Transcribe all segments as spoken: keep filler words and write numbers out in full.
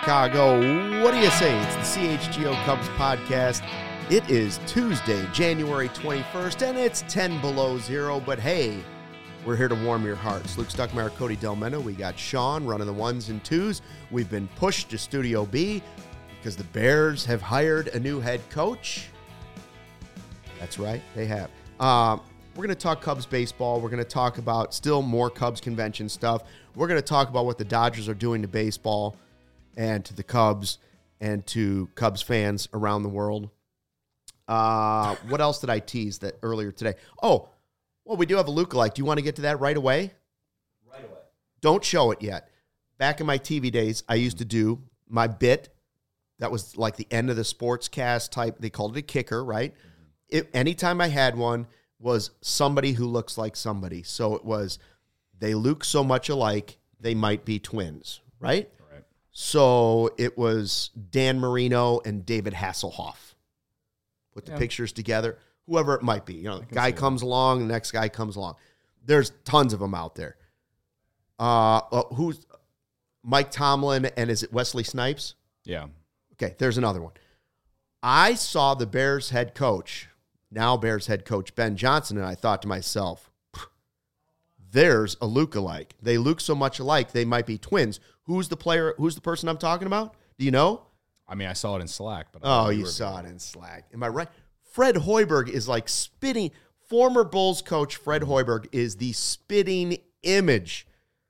Chicago. What do you say? It's the C H G O Cubs podcast. It is Tuesday, January twenty-first, and it's ten below zero, but hey, we're here to warm your hearts. Luke Stuckmeyer, Cody Delmeno. We got Sean running the ones and twos. We've been pushed to Studio B because the Bears have hired a new head coach. That's right, they have. Uh, we're going to talk Cubs baseball. We're going to talk about still more Cubs convention stuff. We're going to talk about what the Dodgers are doing to baseball and to the Cubs and to Cubs fans around the world. Uh, what else did I tease that earlier today? Oh, well, we do have a lookalike. Do you want to get to that right away? Right away. Don't show it yet. Back in my T V days, I used to do my bit. That was like the end of the sportscast type. They called it a kicker, right? Mm-hmm. It, anytime I had one was somebody who looks like somebody. So it was, they look so much alike, they might be twins, right? Right. So it was Dan Marino and David Hasselhoff. Put the yeah. pictures together. Whoever it might be. You know, the guy comes that. along, the next guy comes along. There's tons of them out there. Uh, uh, who's Mike Tomlin and is it Wesley Snipes? Yeah. Okay, there's another one. I saw the Bears head coach, now Bears head coach Ben Johnson, and I thought to myself, there's a lookalike. They look so much alike, they might be twins. Who's the player? Who's the person I'm talking about? Do you know? I mean, I saw it in Slack. But Oh, you saw it in Slack. Am I right? Fred Hoiberg is like spitting. Former Bulls coach Fred Hoiberg is the spitting image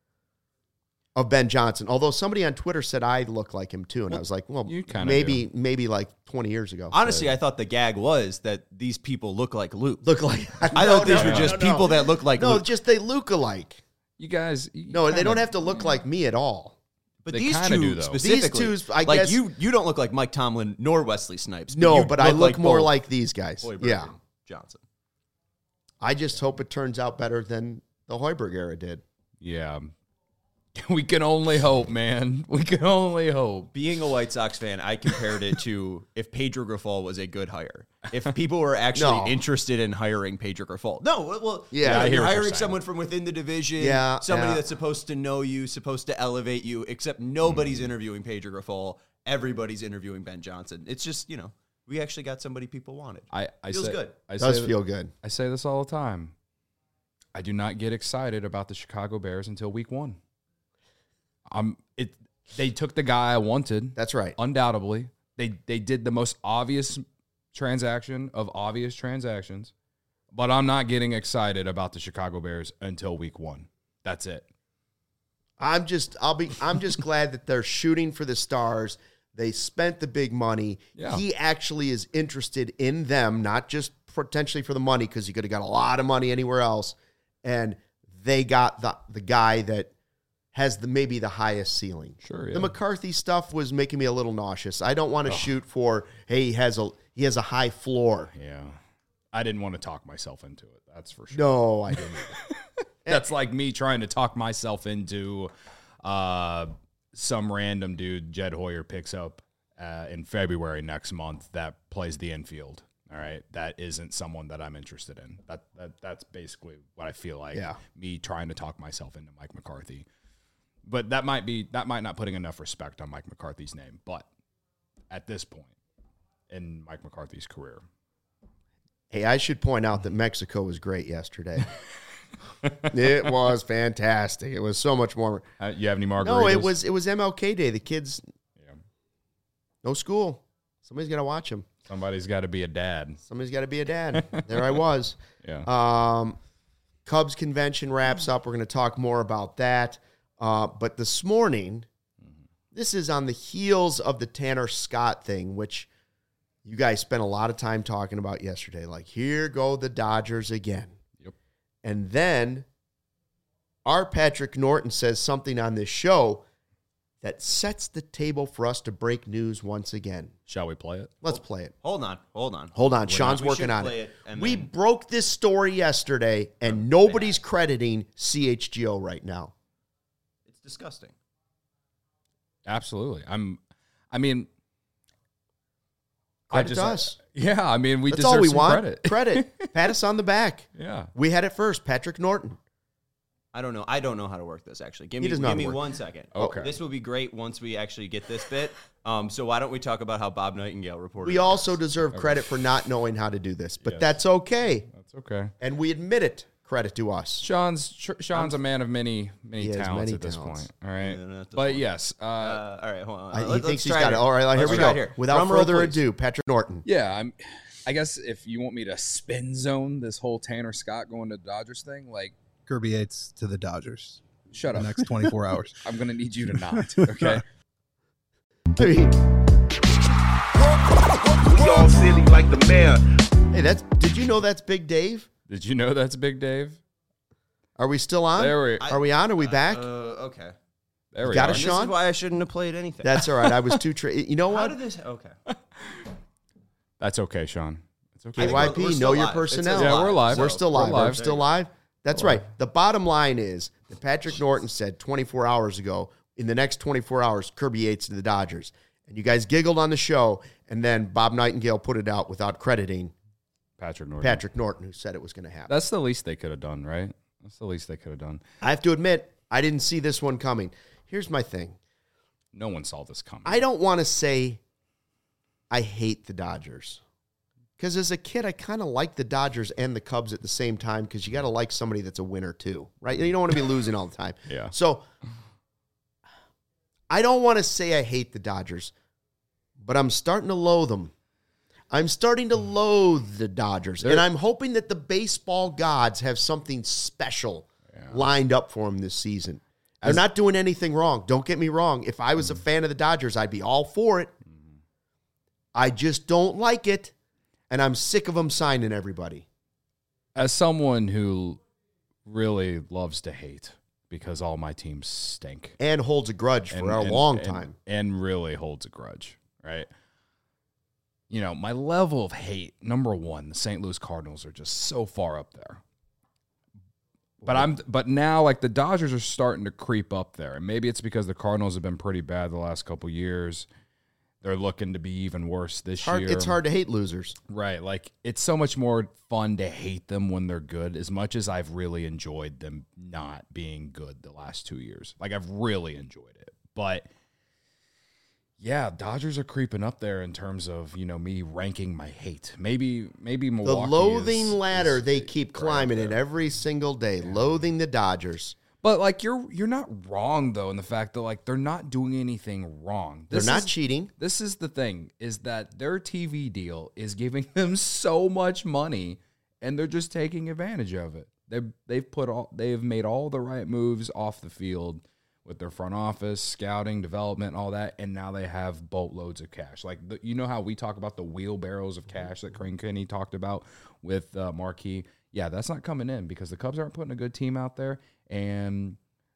of Ben Johnson. Although somebody on Twitter said I look like him too, and well, I was like, well, maybe do. maybe like twenty years ago. Honestly, so. I thought the gag was that these people look like Luke. Look like I no, thought these no, were no, just no, people no. that look like no, Luke. just they look alike. You guys, you no, kinda, they don't have to look yeah. like me at all. But they these two do, though. specifically, these two, I like guess, you, you don't look like Mike Tomlin nor Wesley Snipes. But no, you but look I look like more both like these guys. Hoiberg yeah, and Johnson. I just hope it turns out better than the Hoiberg era did. Yeah. We can only hope, man. We can only hope. Being a White Sox fan, I compared it to if Pedro Grifol was a good hire. If people were actually no. interested in hiring Pedro Grifol. No, well, yeah, yeah, I you're hiring someone from within the division, yeah, somebody yeah. that's supposed to know you, supposed to elevate you, except nobody's mm. interviewing Pedro Grifol. Everybody's interviewing Ben Johnson. It's just, you know, we actually got somebody people wanted. I, I Feels say, good. I It does say feel that, good. I say this all the time. I do not get excited about the Chicago Bears until week one. Um, it. They took the guy I wanted. That's right. Undoubtedly. They they did the most obvious transaction of obvious transactions, but I'm not getting excited about the Chicago Bears until week one. That's it. I'm just I'll be I'm just glad that they're shooting for the stars. They spent the big money. Yeah. He actually is interested in them, not just potentially for the money, because he could have got a lot of money anywhere else. And they got the the guy that has the maybe the highest ceiling. Sure, yeah. The McCarthy stuff was making me a little nauseous. I don't want to oh. shoot for, hey, he has a he has a high floor. Yeah. I didn't want to talk myself into it. That's for sure. No, I didn't. That's like me trying to talk myself into uh, some random dude Jed Hoyer picks up uh, in February next month that plays the infield. All right, that isn't someone that I'm interested in. That that that's basically what I feel like. Yeah. Me trying to talk myself into Mike McCarthy. But that might be that might not putting enough respect on Mike McCarthy's name. But at this point in Mike McCarthy's career, hey, I should point out that Mexico was great yesterday. It was fantastic. It was so much more. Uh, you have any margaritas? No, it was it was M L K Day. The kids, yeah. no school. Somebody's got to watch them. Somebody's got to be a dad. Somebody's got to be a dad. There I was. Yeah. Um, Cubs convention wraps up. We're going to talk more about that. Uh, but this morning, mm-hmm. this is on the heels of the Tanner Scott thing, which you guys spent a lot of time talking about yesterday. Like, here go the Dodgers again. Yep. And then our Patrick Norton says something on this show that sets the table for us to break news once again. Shall we play it? Let's play it. Hold on, hold on. Hold on. We're Sean's not, working on it. it and we then... broke this story yesterday, and nobody's crediting C H G O right now. It's disgusting. Absolutely. I'm, I mean, Credit I just, to us. Yeah, I mean, we That's deserve all we some want. credit. Credit. Pat us on the back. Yeah. We had it first, Patrick Norton. I don't know. I don't know how to work this, actually. Give He me, does not give me work. one second. Okay. This will be great once we actually get this bit. Um, so why don't we talk about how Bob Nightingale reported? We on also this? deserve credit for not knowing how to do this, but Yes. that's okay. That's okay. And we admit it. Credit to us. Sean's Sean's a man of many many He has talents many at this talents. point. All right, Yeah, not this but one. yes, uh, Uh, all right, hold on. I, he Let- let's thinks he's try got it. All right, here Let's we try go. it here. Without Drum roll, further please. ado, Patrick Norton. yeah. I'm. I guess if you want me to spin zone this whole Tanner Scott going to the Dodgers thing, like, Kirby Yates to the Dodgers. shut The up. next twenty-four hours. I'm gonna need you to not. Okay. I mean, We all silly like the mayor. hey, that's. Did you know that's Big Dave? Did you know that's Big Dave? Are we still on? There we. Are we on? Are we back? Uh, okay. There we got are. a This Sean? is why I shouldn't have played anything. That's all right. I was too. Tra- you know How what? did this? Okay. That's okay, Sean. It's okay. I think K Y we're- P, we're know still your live. It says personnel. Yeah, we're live. We're so- still live. We're We're live. still live. That's right. The bottom line is that Patrick Norton said twenty-four hours ago, in the next twenty-four hours, Kirby Yates to the Dodgers. And you guys giggled on the show, and then Bob Nightingale put it out without crediting Patrick Norton. Patrick Norton, who said it was going to happen. That's the least they could have done, right? That's the least they could have done. I have to admit, I didn't see this one coming. Here's my thing. No one saw this coming. I don't want to say I hate the Dodgers. Because as a kid, I kind of like the Dodgers and the Cubs at the same time because you got to like somebody that's a winner too, right? You don't want to be losing all the time. Yeah. So I don't want to say I hate the Dodgers, but I'm starting to loathe them. I'm starting to loathe the Dodgers, and They're- I'm hoping that the baseball gods have something special lined up for them this season. They're As- not doing anything wrong. Don't get me wrong. If I was a fan of the Dodgers, I'd be all for it. I just don't like it, and I'm sick of them signing everybody. As someone who really loves to hate because all my teams stink And holds a grudge for a long time. and, and really holds a grudge, right? You know, my level of hate, number one, the Saint Louis Cardinals are just so far up there. But I'm but now like the Dodgers are starting to creep up there. And maybe it's because the Cardinals have been pretty bad the last couple years. They're looking to be even worse this It's hard, year. it's hard to hate losers. Right. Like, it's so much more fun to hate them when they're good, as much as I've really enjoyed them not being good the last two years. Like, I've really enjoyed it. But, yeah, Dodgers are creeping up there in terms of, you know, me ranking my hate. Maybe, maybe The Milwaukee loathing is- ladder, is they keep right climbing it there. every single day, loathing the Dodgers. But, like, you're you're not wrong, though, in the fact that, like, they're not doing anything wrong. They're This not is- cheating. This is the thing, is that their T V deal is giving them so much money, and they're just taking advantage of it. They they've put all they've made all the right moves off the field with their front office, scouting, development, all that, and now they have boatloads of cash. Like the, you know how we talk about the wheelbarrows of cash that Crane Kenny talked about with uh, Marquee. Yeah, that's not coming in because the Cubs aren't putting a good team out there, and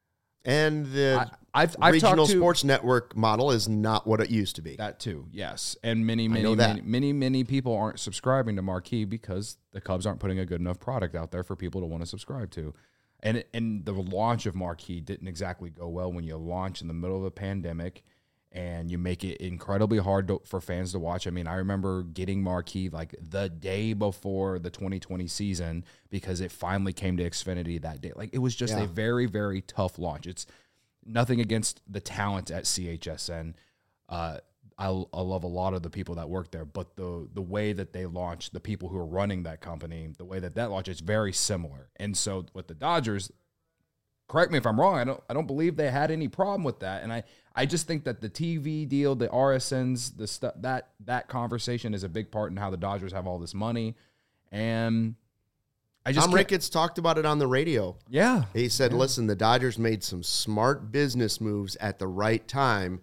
And the I, I've I've regional talked to, sports network model is not what it used to be. That too, yes. And many, know many, that. many, many, many people aren't subscribing to Marquee because the Cubs aren't putting a good enough product out there for people to want to subscribe to. And and the launch of Marquee didn't exactly go well when you launch in the middle of a pandemic and you make it incredibly hard to, for fans to watch. I mean, I remember getting Marquee like the day before the twenty twenty season because it finally came to Xfinity that day. Like it was just Yeah. a very, very tough launch. It's nothing against the talent at C H S N. Uh, I, I love a lot of the people that work there, but the the way that they launch, the people who are running that company, the way that that launch is very similar. And so with the Dodgers, correct me if I'm wrong, I don't I don't believe they had any problem with that. And I, I just think that the T V deal, the R S Ns, the stuff that that conversation is a big part in how the Dodgers have all this money. And I just Tom can't- Ricketts talked about it on the radio. yeah. He said, listen, the Dodgers made some smart business moves at the right time,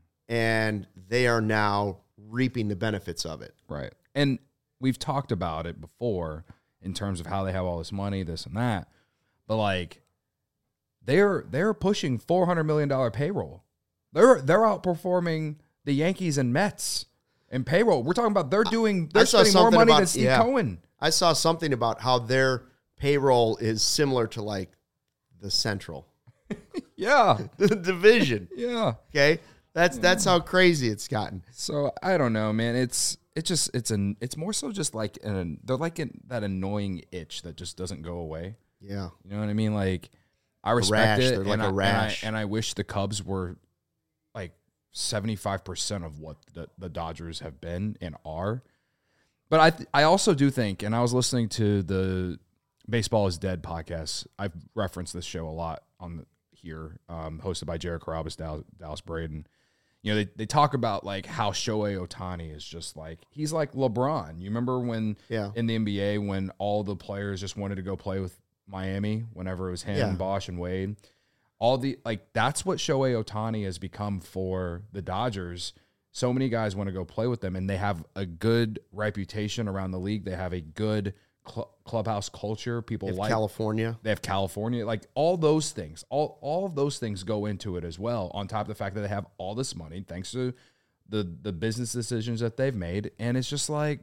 and they are now reaping the benefits of it. Right. And we've talked about it before in terms of how they have all this money, this and that. But like they're they're pushing four hundred million dollars payroll. They're they're outperforming the Yankees and Mets in payroll. We're talking about they're doing they're I saw spending more something money about- than Steve yeah. Cohen. I saw something about how their payroll is similar to like the Central Yeah. the division. Yeah. Okay, that's that's how crazy it's gotten. So I don't know, man. It's it's just it's an it's more so just like an they're like an, that annoying itch that just doesn't go away. Yeah, You know what I mean? Like I respect rash. it, They're like and, a I, rash. And, I, and I wish the Cubs were like seventy-five percent of what the, the Dodgers have been and are. But I th- I also do think, and I was listening to the Baseball is Dead podcast. I've referenced this show a lot on the, here, um, hosted by Jared Carabas, Dallas, Dallas Braden. You know, they, they talk about like how Shohei Ohtani is just like, he's like LeBron. You remember when Yeah. in the N B A when all the players just wanted to go play with Miami whenever it was him, Yeah. Bosch, and Wade? All the, like, that's what Shohei Ohtani has become for the Dodgers. So many guys want to go play with them, and they have a good reputation around the league. They have a good cl- clubhouse culture. People If like California. they have California, like all those things, all all of those things go into it as well. On top of the fact that they have all this money, thanks to the the business decisions that they've made, and it's just like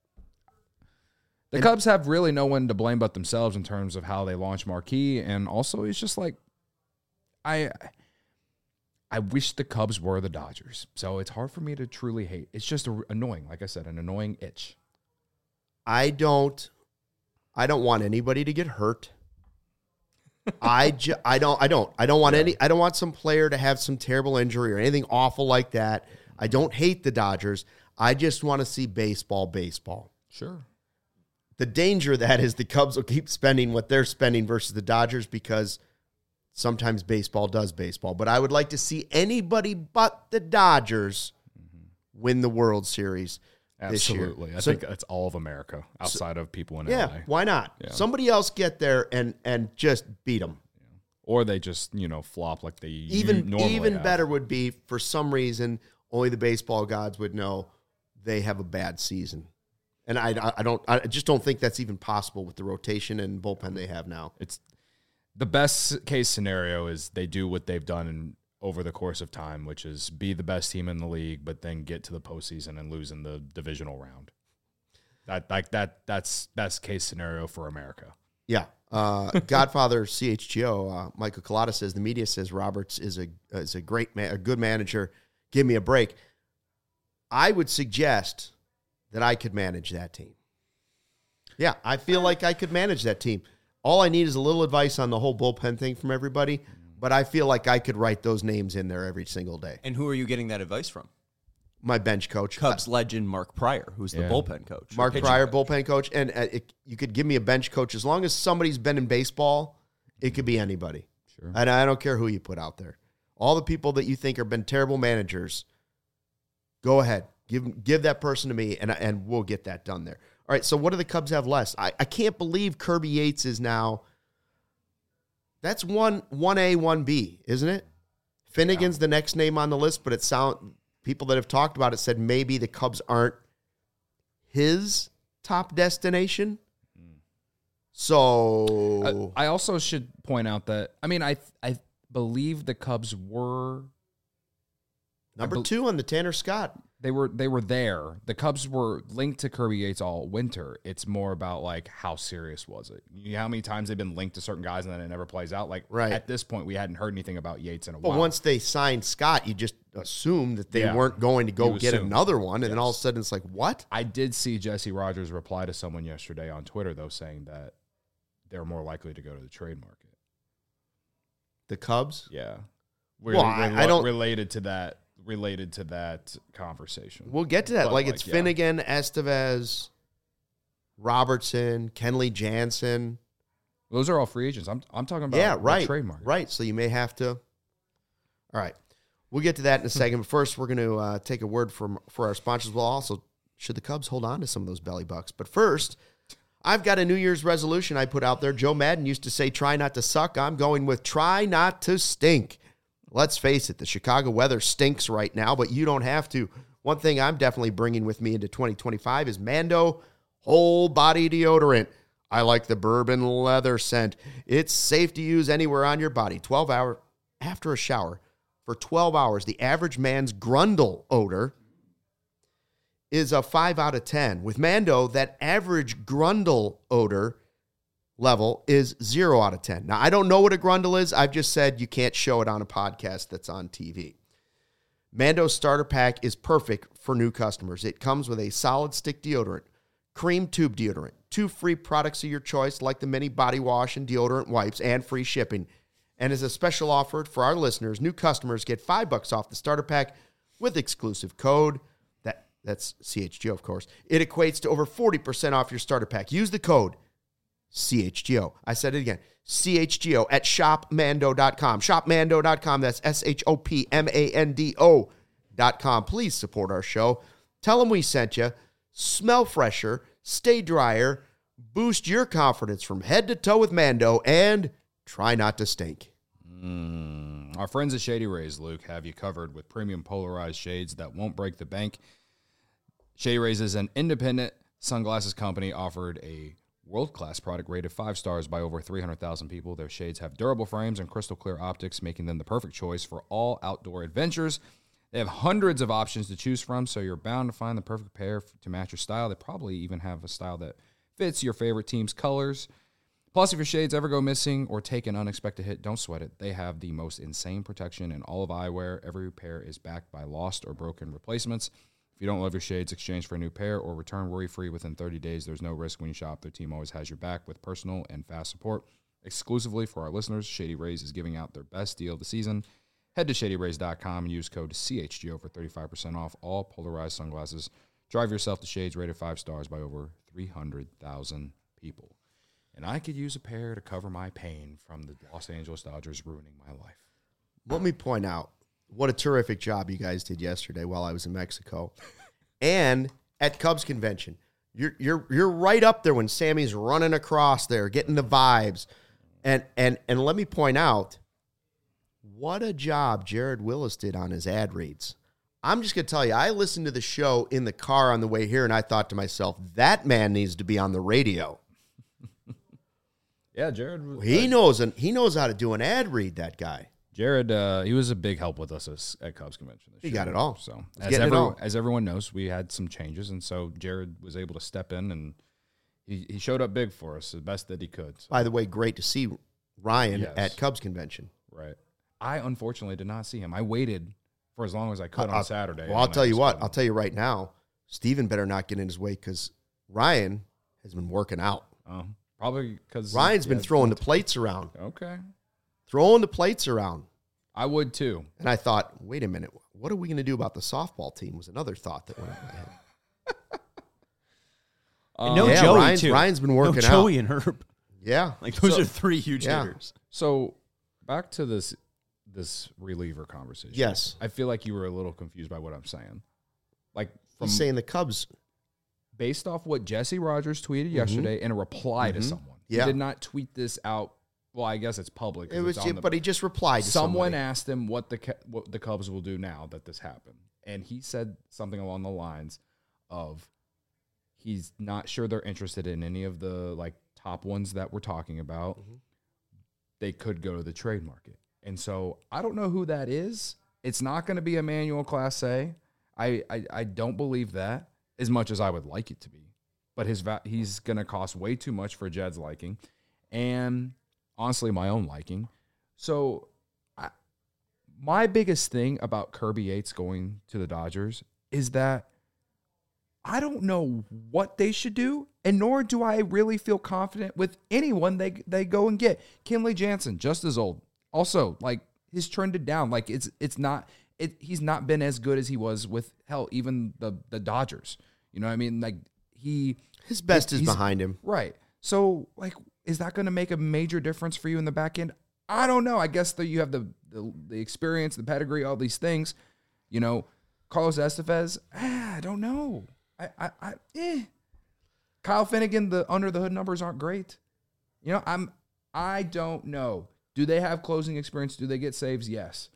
the And- Cubs have really no one to blame but themselves in terms of how they launch Marquee, and also it's just like I. I wish the Cubs were the Dodgers, so it's hard for me to truly hate. It's just a, annoying, like I said, an annoying itch. I don't I don't want anybody to get hurt. I ju- I don't I don't I don't want Yeah. any I don't want some player to have some terrible injury or anything awful like that. I don't hate the Dodgers. I just want to see baseball baseball. Sure. The danger of that is the Cubs will keep spending what they're spending versus the Dodgers because sometimes baseball does baseball. But I would like to see anybody but the Dodgers win the World Series this year. Absolutely. I So- think that's all of America outside of people in Yeah, L A. why not? Yeah. Somebody else get there and and just beat them. Or they just, you know, flop like they Even normally even have. better would be for some reason only the baseball gods would know they have a bad season, and I I don't I just don't think that's even possible with the rotation and bullpen they have now. It's the best case scenario is they do what they've done in, over the course of time, which is be the best team in the league, but then get to the postseason and lose in the divisional round. That like that that's best case scenario for America. Yeah. Uh, Godfather C H G O, uh, Michael Collada says the media says Roberts is a is a great man, a good manager. Give me a break. I would suggest that I could manage that team. Yeah, I feel like I could manage that team. All I need is a little advice on the whole bullpen thing from everybody, but I feel like I could write those names in there every single day. And who are you getting that advice from? My bench coach, Cubs legend Mark Pryor, who's the Yeah. bullpen coach. or Mark pitching Pryor, coach. bullpen coach, and uh, it, you could give me a bench coach as long as somebody's been in baseball. It could be anybody. Sure. And I don't care who you put out there. All the people that you think have been terrible managers, go ahead. Give give that person to me, and, and we'll get that done there. All right, so what do the Cubs have less? I, I can't believe Kirby Yates is now – that's one, one A, one B, isn't it? Finnegan's the next name on the list, but it sound people that have talked about it said maybe the Cubs aren't his top destination. So I, I also should point out that I mean I I believe the Cubs were number bel- two on the Tanner Scott. they were they were there. The Cubs were linked to Kirby Yates all winter. It's more about like how serious was it? You know how many times they've been linked to certain guys and then it never plays out. Like Right. at this point, we hadn't heard anything about Yates in a But while. once they signed Scott, you just assumed that they Yeah. weren't going to go You get assume. another one, and then Yes. all of a sudden it's like, what? I did see Jesse Rogers reply to someone yesterday on Twitter though, saying that they're more likely to go to the trade market. The Cubs? Yeah, Well, I- I don't- related to that. Related to that conversation. We'll get to that. But, Like, like, it's yeah. Finnegan, Estevez, Robertson, Kenley Jansen. Those are all free agents. I'm I'm talking about Yeah, the right. trade market. Right. So you may have to. All right. We'll get to that in a second. But first, we're going to uh, take a word from for our sponsors. Well, also, should the Cubs hold on to some of those belly bucks? But first, I've got a New Year's resolution I put out there. Joe Madden used to say, try not to suck. I'm going with try not to stink. Let's face it, the Chicago weather stinks right now, but you don't have to. One thing I'm definitely bringing with me into twenty twenty-five is Mando whole body deodorant. I like the bourbon leather scent. It's safe to use anywhere on your body. twelve hours after a shower. For twelve hours, the average man's grundle odor is a five out of ten. With Mando, that average grundle odor level is zero out of ten. Now, I don't know what a grundle is. I've just said you can't show it on a podcast that's on T V. Mando's starter pack is perfect for new customers. It comes with a solid stick deodorant, cream tube deodorant, two free products of your choice like the mini body wash and deodorant wipes, and free shipping. And as a special offer for our listeners, new customers get five bucks off the starter pack with exclusive code. That That's C H G O, of course. It equates to over forty percent off your starter pack. Use the code C H G O. I said it again. C H G O at shop mando dot com. shop mando dot com. That's S H O P M A N D O dot com. Please support our show. Tell them we sent you. Smell fresher. Stay drier. Boost your confidence from head to toe with Mando. And try not to stink. Mm. Our friends at Shady Rays, Luke, have you covered with premium polarized shades that won't break the bank. Shady Rays is an independent sunglasses company offered a world-class product rated five stars by over three hundred thousand people. Their shades have durable frames and crystal clear optics, making them the perfect choice for all outdoor adventures. They have hundreds of options to choose from, so you're bound to find the perfect pair to match your style. They probably even have a style that fits your favorite team's colors. Plus, if your shades ever go missing or take an unexpected hit, don't sweat it. They have the most insane protection in all of eyewear. Every pair is backed by lost or broken replacements. If you don't love your shades, exchange for a new pair or return worry-free within thirty days. There's no risk when you shop. Their team always has your back with personal and fast support. Exclusively for our listeners, Shady Rays is giving out their best deal of the season. Head to shady rays dot com and use code C H G O for thirty-five percent off all polarized sunglasses. Drive yourself to shades rated five stars by over three hundred thousand people. And I could use a pair to cover my pain from the Los Angeles Dodgers ruining my life. Let me point out what a terrific job you guys did yesterday while I was in Mexico. And at Cubs convention. You're you're you're right up there when Sammy's running across there, getting the vibes. And and and let me point out what a job Jared Willis did on his ad reads. I'm just going to tell you, I listened to the show in the car on the way here, and I thought to myself, that man needs to be on the radio. Yeah, Jared. He knows an, he knows how to do an ad read, that guy. Jared, uh, he was a big help with us as, at Cubs convention. This He year. got it all. So He's as, getting it every, all. as everyone knows, we had some changes, and so Jared was able to step in, and he, he showed up big for us, the best that he could. So, By the way, great to see Ryan Yes. at Cubs convention. right. I unfortunately did not see him. I waited for as long as I could I'll- on Saturday. Well, I'll and I tell you just what. couldn't. I'll tell you right now, Steven better not get in his way because Ryan has been working out. Oh, probably because Ryan's been throwing the plates around. Okay. Throwing the plates around. I would too. And I thought, wait a minute, what are we going to do about the softball team was another thought that went in my head. And no yeah, Joey, Ryan's, too. Ryan's been No working out. Joey and Herb. Yeah. Like, those So- are three huge yeah. hitters. So back to this this reliever conversation. Yes. I feel like you were a little confused by what I'm saying. Like from He's saying the Cubs. based off what Jesse Rogers tweeted yesterday in a reply to Mhm. someone. Yeah. He did not tweet this out. Well, I guess it's public. 'cause It was, it's on the- but he just replied to someone somebody. asked him what the Cu- what the Cubs will do now that this happened, and he said something along the lines of he's not sure they're interested in any of the like top ones that we're talking about. Mhm. They could go to the trade market, and so I don't know who that is. It's not going to be Emmanuel Class A. I, I I don't believe that as much as I would like it to be, but his va- he's going to cost way too much for Jed's liking, and honestly, my own liking. So, I, my biggest thing about Kirby Yates going to the Dodgers is that I don't know what they should do, and nor do I really feel confident with anyone they they go and get. Kenley Jansen, just as old. Also, like, he's trended down. Like, it's it's not it. He's not been as good as he was with hell, even the the Dodgers. You know what I mean? Like, he His best is he's- behind him. Right. So, like, is that going to make a major difference for you in the back end? I don't know. I guess that you have the, the the experience, the pedigree, all these things. You know, Carlos Estevez, ah, I don't know. I, I, I, eh. Kyle Finnegan, the under the hood numbers aren't great. You know, I'm, I don't know. Do they have closing experience? Do they get saves? Yes.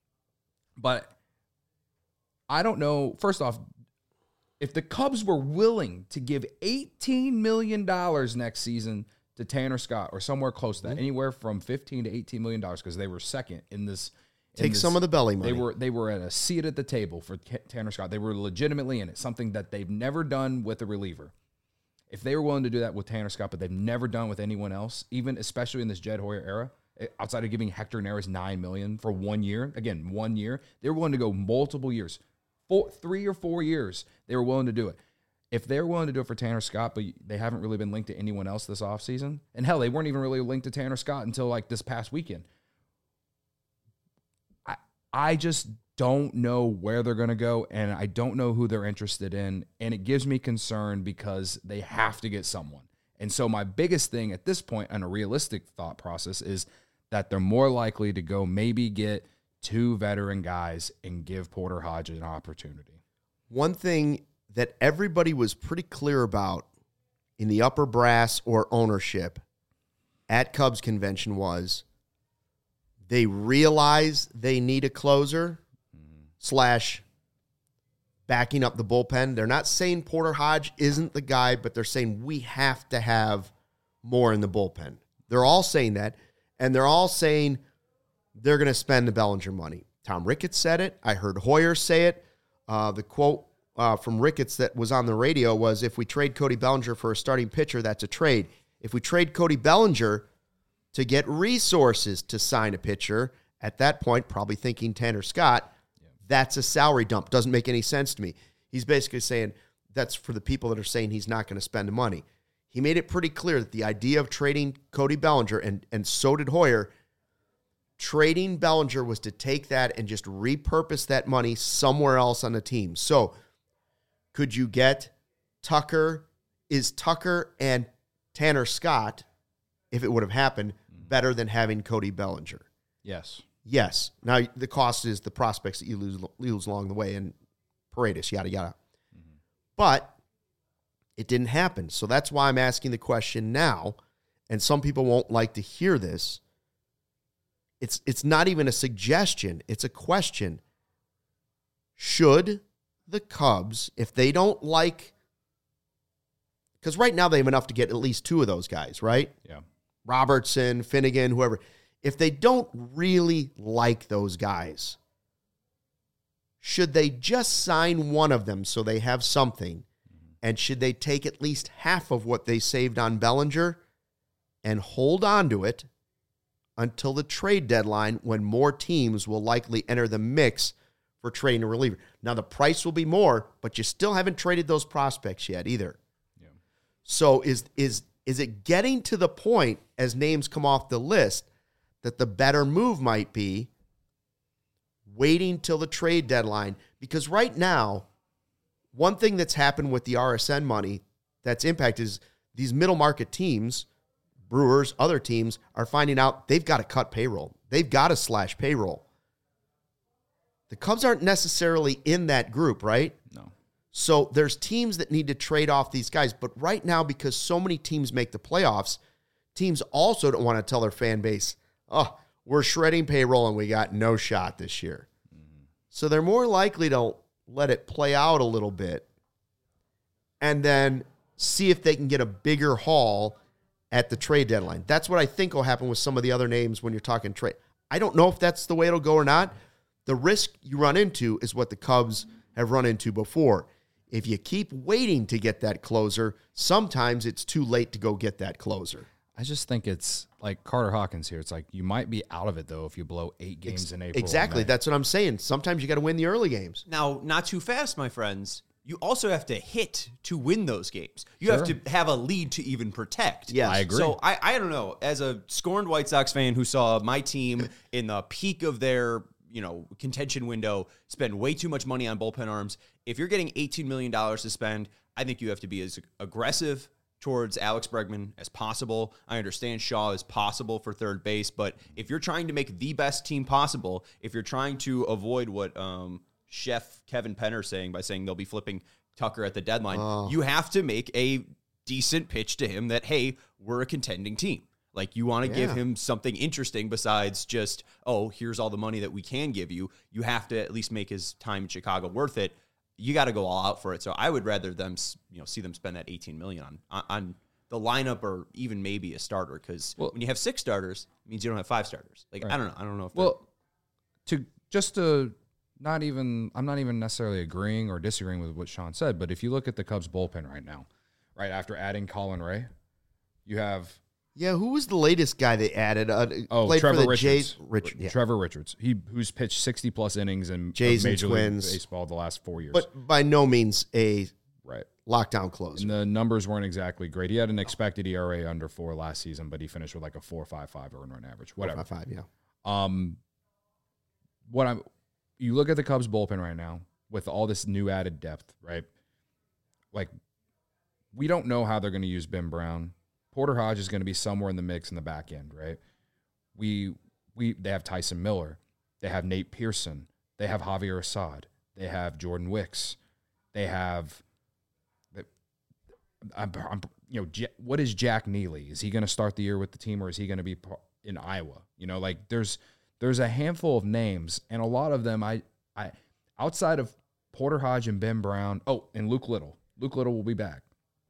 But I don't know. First off, if the Cubs were willing to give eighteen million dollars next season to Tanner Scott or somewhere close to that, anywhere from fifteen to eighteen million dollars, because they were second in this. in Take this- some of the belly money. They were they were at a seat at the table for K- Tanner Scott. They were legitimately in it, something that they've never done with a reliever. If they were willing to do that with Tanner Scott, but they've never done with anyone else, even especially in this Jed Hoyer era, eh, outside of giving Hector Neris nine million dollars for one year, again, one year, they were willing to go multiple years. Four, three or four years, they were willing to do it. If they're willing to do it for Tanner Scott, but they haven't really been linked to anyone else this offseason, and hell, they weren't even really linked to Tanner Scott until like this past weekend. I just don't know where they're going to go, and I don't know who they're interested in, and it gives me concern because they have to get someone. And so my biggest thing at this point on a realistic thought process is that they're more likely to go maybe get two veteran guys and give Porter Hodge an opportunity. One thing that everybody was pretty clear about in the upper brass or ownership at Cubs convention was they realize they need a closer mm-hmm. slash backing up the bullpen. They're not saying Porter Hodge isn't the guy, but they're saying we have to have more in the bullpen. They're all saying that, and they're all saying they're going to spend the Bellinger money. Tom Ricketts said it. I heard Hoyer say it. Uh, the quote uh, from Ricketts that was on the radio was, if we trade Cody Bellinger for a starting pitcher, that's a trade. If we trade Cody Bellinger to get resources to sign a pitcher, at that point, probably thinking Tanner Scott, yeah. that's a salary dump. Doesn't make any sense to me. He's basically saying that's for the people that are saying he's not going to spend the money. He made it pretty clear that the idea of trading Cody Bellinger, and, and so did Hoyer, trading Bellinger was to take that and just repurpose that money somewhere else on the team. So could you get Tucker? Is Tucker and Tanner Scott, if it would have happened, better than having Cody Bellinger? Yes. Yes. Now, the cost is the prospects that you lose, lose along the way, and Paredes, yada, yada. Mm-hmm. But it didn't happen. So that's why I'm asking the question now, and some people won't like to hear this. It's it's not even a suggestion. It's a question. Should the Cubs, if they don't like, because right now they have enough to get at least two of those guys, right? Yeah. Robertson, Finnegan, whoever. If they don't really like those guys, should they just sign one of them so they have something? And should they take at least half of what they saved on Bellinger and hold on to it until the trade deadline, when more teams will likely enter the mix for trading a reliever? Now, the price will be more, but you still haven't traded those prospects yet either. Yeah. So is is is it getting to the point, as names come off the list, that the better move might be waiting till the trade deadline? Because right now, one thing that's happened with the R S N money that's impacted is these middle market teams, Brewers, other teams, are finding out they've got to cut payroll. They've got to slash payroll. The Cubs aren't necessarily in that group, right? No. So there's teams that need to trade off these guys. But right now, because so many teams make the playoffs, teams also don't want to tell their fan base, oh, we're shredding payroll and we got no shot this year. Mm-hmm. So they're more likely to let it play out a little bit and then see if they can get a bigger haul at the trade deadline. That's what I think will happen with some of the other names when you're talking trade. I don't know if that's the way it'll go or not. The risk you run into is what the Cubs have run into before. If you keep waiting to get that closer, sometimes it's too late to go get that closer. I just think it's like Carter Hawkins here. It's like you might be out of it, though, if you blow eight games Ex- in April. Exactly. That's what I'm saying. Sometimes you got to win the early games. Now, not too fast, my friends. You also have to hit to win those games. You Sure. have to have a lead to even protect. Yes. I agree. So I, I don't know. As a scorned White Sox fan who saw my team in the peak of their, you know, contention window spend way too much money on bullpen arms, if you're getting eighteen million dollars to spend, I think you have to be as aggressive towards Alex Bregman as possible. I understand Shaw is possible for third base, but if you're trying to make the best team possible, if you're trying to avoid what um, Chef Kevin Penner saying by saying they'll be flipping Tucker at the deadline, oh. you have to make a decent pitch to him that, hey, we're a contending team. Like, you want to yeah. give him something interesting besides just, oh, here's all the money that we can give you. You have to at least make his time in Chicago worth it. You got to go all out for it. So I would rather them, you know, see them spend that eighteen million dollars on on the lineup, or even maybe a starter, because well, when you have six starters, it means you don't have five starters. Like right. I don't know, I don't know if well, to just to not even, I'm not even necessarily agreeing or disagreeing with what Sean said, but if you look at the Cubs bullpen right now, right after adding Colin Ray, you have. Yeah, who was the latest guy they added? Uh, oh, played Trevor for the Richards. Jays. Rich, yeah. Trevor Richards. He who's pitched sixty plus innings in Jays Major and League Twins. Baseball the last four years. But by no means a right lockdown closer. And the numbers weren't exactly great. He had an expected E R A under four last season, but he finished with like a four point five five earned run average. Whatever. four point five, yeah. Um, what I'm you look at the Cubs bullpen right now with all this new added depth, right? Like, we don't know how they're going to use Ben Brown. Porter Hodge is going to be somewhere in the mix in the back end, right? We we they have Tyson Miller, they have Nate Pearson, they have Javier Assad, they have Jordan Wicks, they have, I'm, I'm, you know, what is Jack Neely? Is he going to start the year with the team, or is he going to be in Iowa? You know, like there's there's a handful of names, and a lot of them I I outside of Porter Hodge and Ben Brown. Oh, and Luke Little. Luke Little will be back.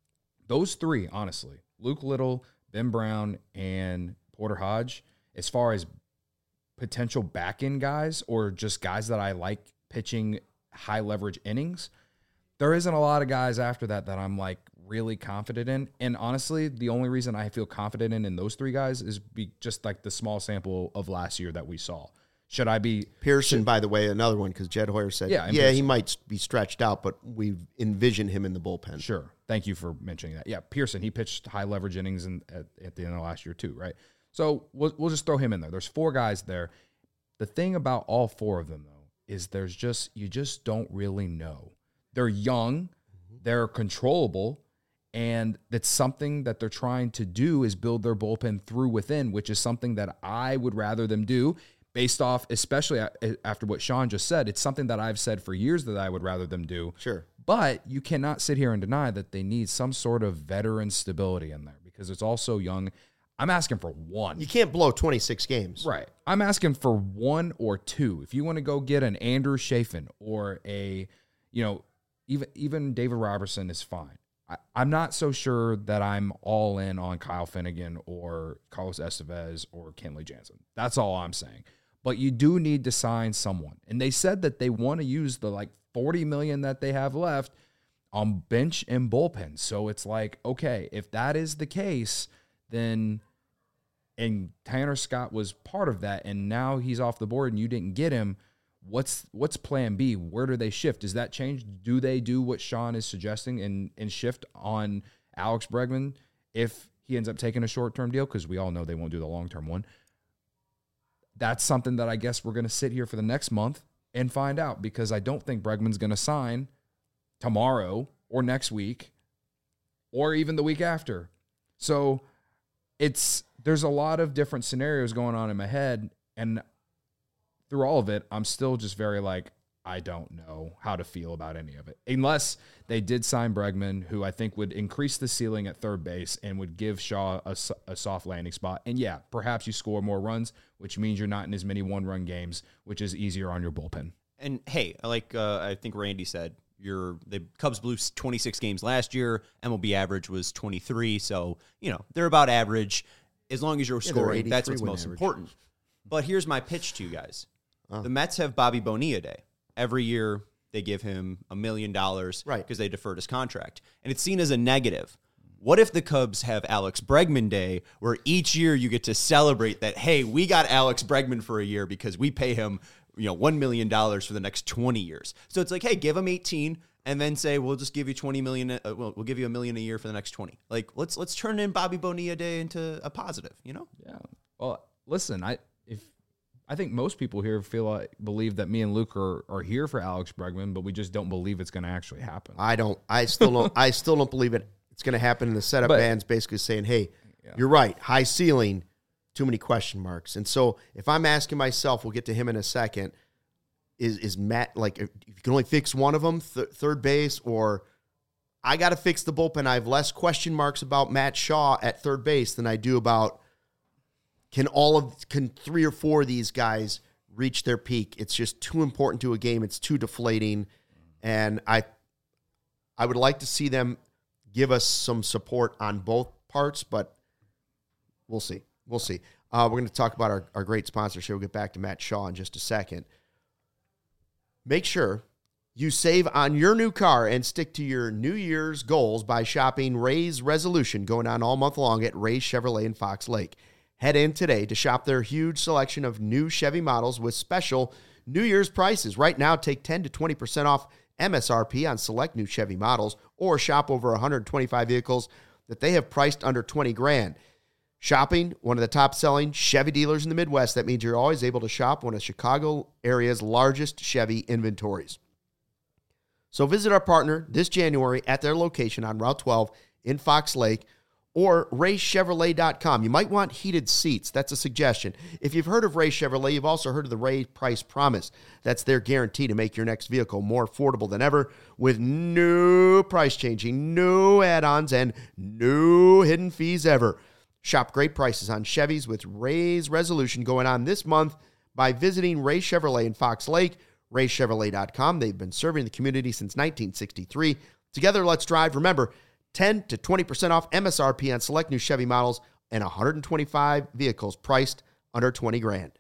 Those three, honestly, Luke Little, Ben Brown, and Porter Hodge, as far as potential back-end guys or just guys that I like pitching high-leverage innings, there isn't a lot of guys after that that I'm, like, really confident in. And honestly, the only reason I feel confident in, in those three guys is be just, like, the small sample of last year that we saw. Should I be Pearson, should, by the way, another one, because Jed Hoyer said, yeah, yeah Pearson. he might be stretched out, but we envision him in the bullpen. Sure. Thank you for mentioning that. Yeah, Pearson, he pitched high leverage innings in, at, at the end of last year too, right? So we'll, we'll just throw him in there. There's four guys there. The thing about all four of them, though, is there's just, you just don't really know. They're young, they're controllable, and that's something that they're trying to do is build their bullpen through within, which is something that I would rather them do. Based off, especially after what Sean just said, it's something that I've said for years that I would rather them do. Sure. But you cannot sit here and deny that they need some sort of veteran stability in there because it's also young. I'm asking for one. You can't blow twenty-six games. Right. I'm asking for one or two. If you want to go get an Andrew Chafin or a, you know, even even David Robertson is fine. I, I'm not so sure that I'm all in on Kyle Finnegan or Carlos Estevez or Kenley Jansen. That's all I'm saying. But you do need to sign someone. And they said that they want to use the like forty million dollars that they have left on bench and bullpen. So it's like, okay, if that is the case, then, and Tanner Scott was part of that, and now he's off the board and you didn't get him, what's what's plan B? Where do they shift? Does that change? Do they do what Sean is suggesting and, and shift on Alex Bregman if he ends up taking a short-term deal? Because we all know they won't do the long-term one. That's something that I guess we're going to sit here for the next month and find out, because I don't think Bregman's going to sign tomorrow or next week or even the week after. So it's there's a lot of different scenarios going on in my head, and through all of it, I'm still just very like, I don't know how to feel about any of it. Unless they did sign Bregman, who I think would increase the ceiling at third base and would give Shaw a, a soft landing spot. And yeah, perhaps you score more runs, which means you're not in as many one-run games, which is easier on your bullpen. And hey, like uh, I think Randy said, you're, the Cubs blew twenty-six games last year. M L B average was twenty-three. So, you know, they're about average. As long as you're Yeah, scoring, that's what's win most average. important. But here's my pitch to you guys. Oh. The Mets have Bobby Bonilla Day. Every year they give him a million dollars Right. because they deferred his contract. And it's seen as a negative. What if the Cubs have Alex Bregman Day, where each year you get to celebrate that, hey, we got Alex Bregman for a year because we pay him, you know, one million dollars for the next twenty years. So it's like, hey, give him eighteen and then say, we'll just give you twenty million. Uh, we'll, we'll give you a million a year for the next twenty. Like, let's let's turn in Bobby Bonilla Day into a positive, you know? Yeah. Well, listen, I if I think most people here feel like believe that me and Luke are, are here for Alex Bregman, but we just don't believe it's going to actually happen. I don't. I still don't. I still don't believe it. It's going to happen. And the setup But- band's basically saying, "Hey, Yeah. you're right. High ceiling, too many question marks." And so, if I'm asking myself, we'll get to him in a second. Is is Matt like if you can only fix one of them, th- third base, or I got to fix the bullpen? I have less question marks about Matt Shaw at third base than I do about can all of can three or four of these guys reach their peak. It's just too important to a game. It's too deflating, and I I would like to see them give us some support on both parts, but we'll see. We'll see. Uh, we're going to talk about our, our great sponsor here. We'll get back to Matt Shaw in just a second. Make sure you save on your new car and stick to your New Year's goals by shopping Ray's Resolution, going on all month long at Ray's Chevrolet in Fox Lake. Head in today to shop their huge selection of new Chevy models with special New Year's prices. Right now, take ten to twenty percent off M S R P on select new Chevy models, or shop over one hundred twenty-five vehicles that they have priced under twenty grand. Shopping one of the top-selling Chevy dealers in the Midwest. That means you're always able to shop one of Chicago area's largest Chevy inventories. So visit our partner this January at their location on Route twelve in Fox Lake or ray chevrolet dot com. You might want heated seats. That's a suggestion. If you've heard of Ray Chevrolet, you've also heard of the Ray Price Promise. That's their guarantee to make your next vehicle more affordable than ever with no price changing, no add-ons, and no hidden fees ever. Shop great prices on Chevys with Ray's Resolution going on this month by visiting Ray Chevrolet in Fox Lake, ray chevrolet dot com. They've been serving the community since nineteen sixty-three. Together, let's drive. Remember, ten to twenty percent off M S R P on select new Chevy models and one hundred twenty-five vehicles priced under twenty grand.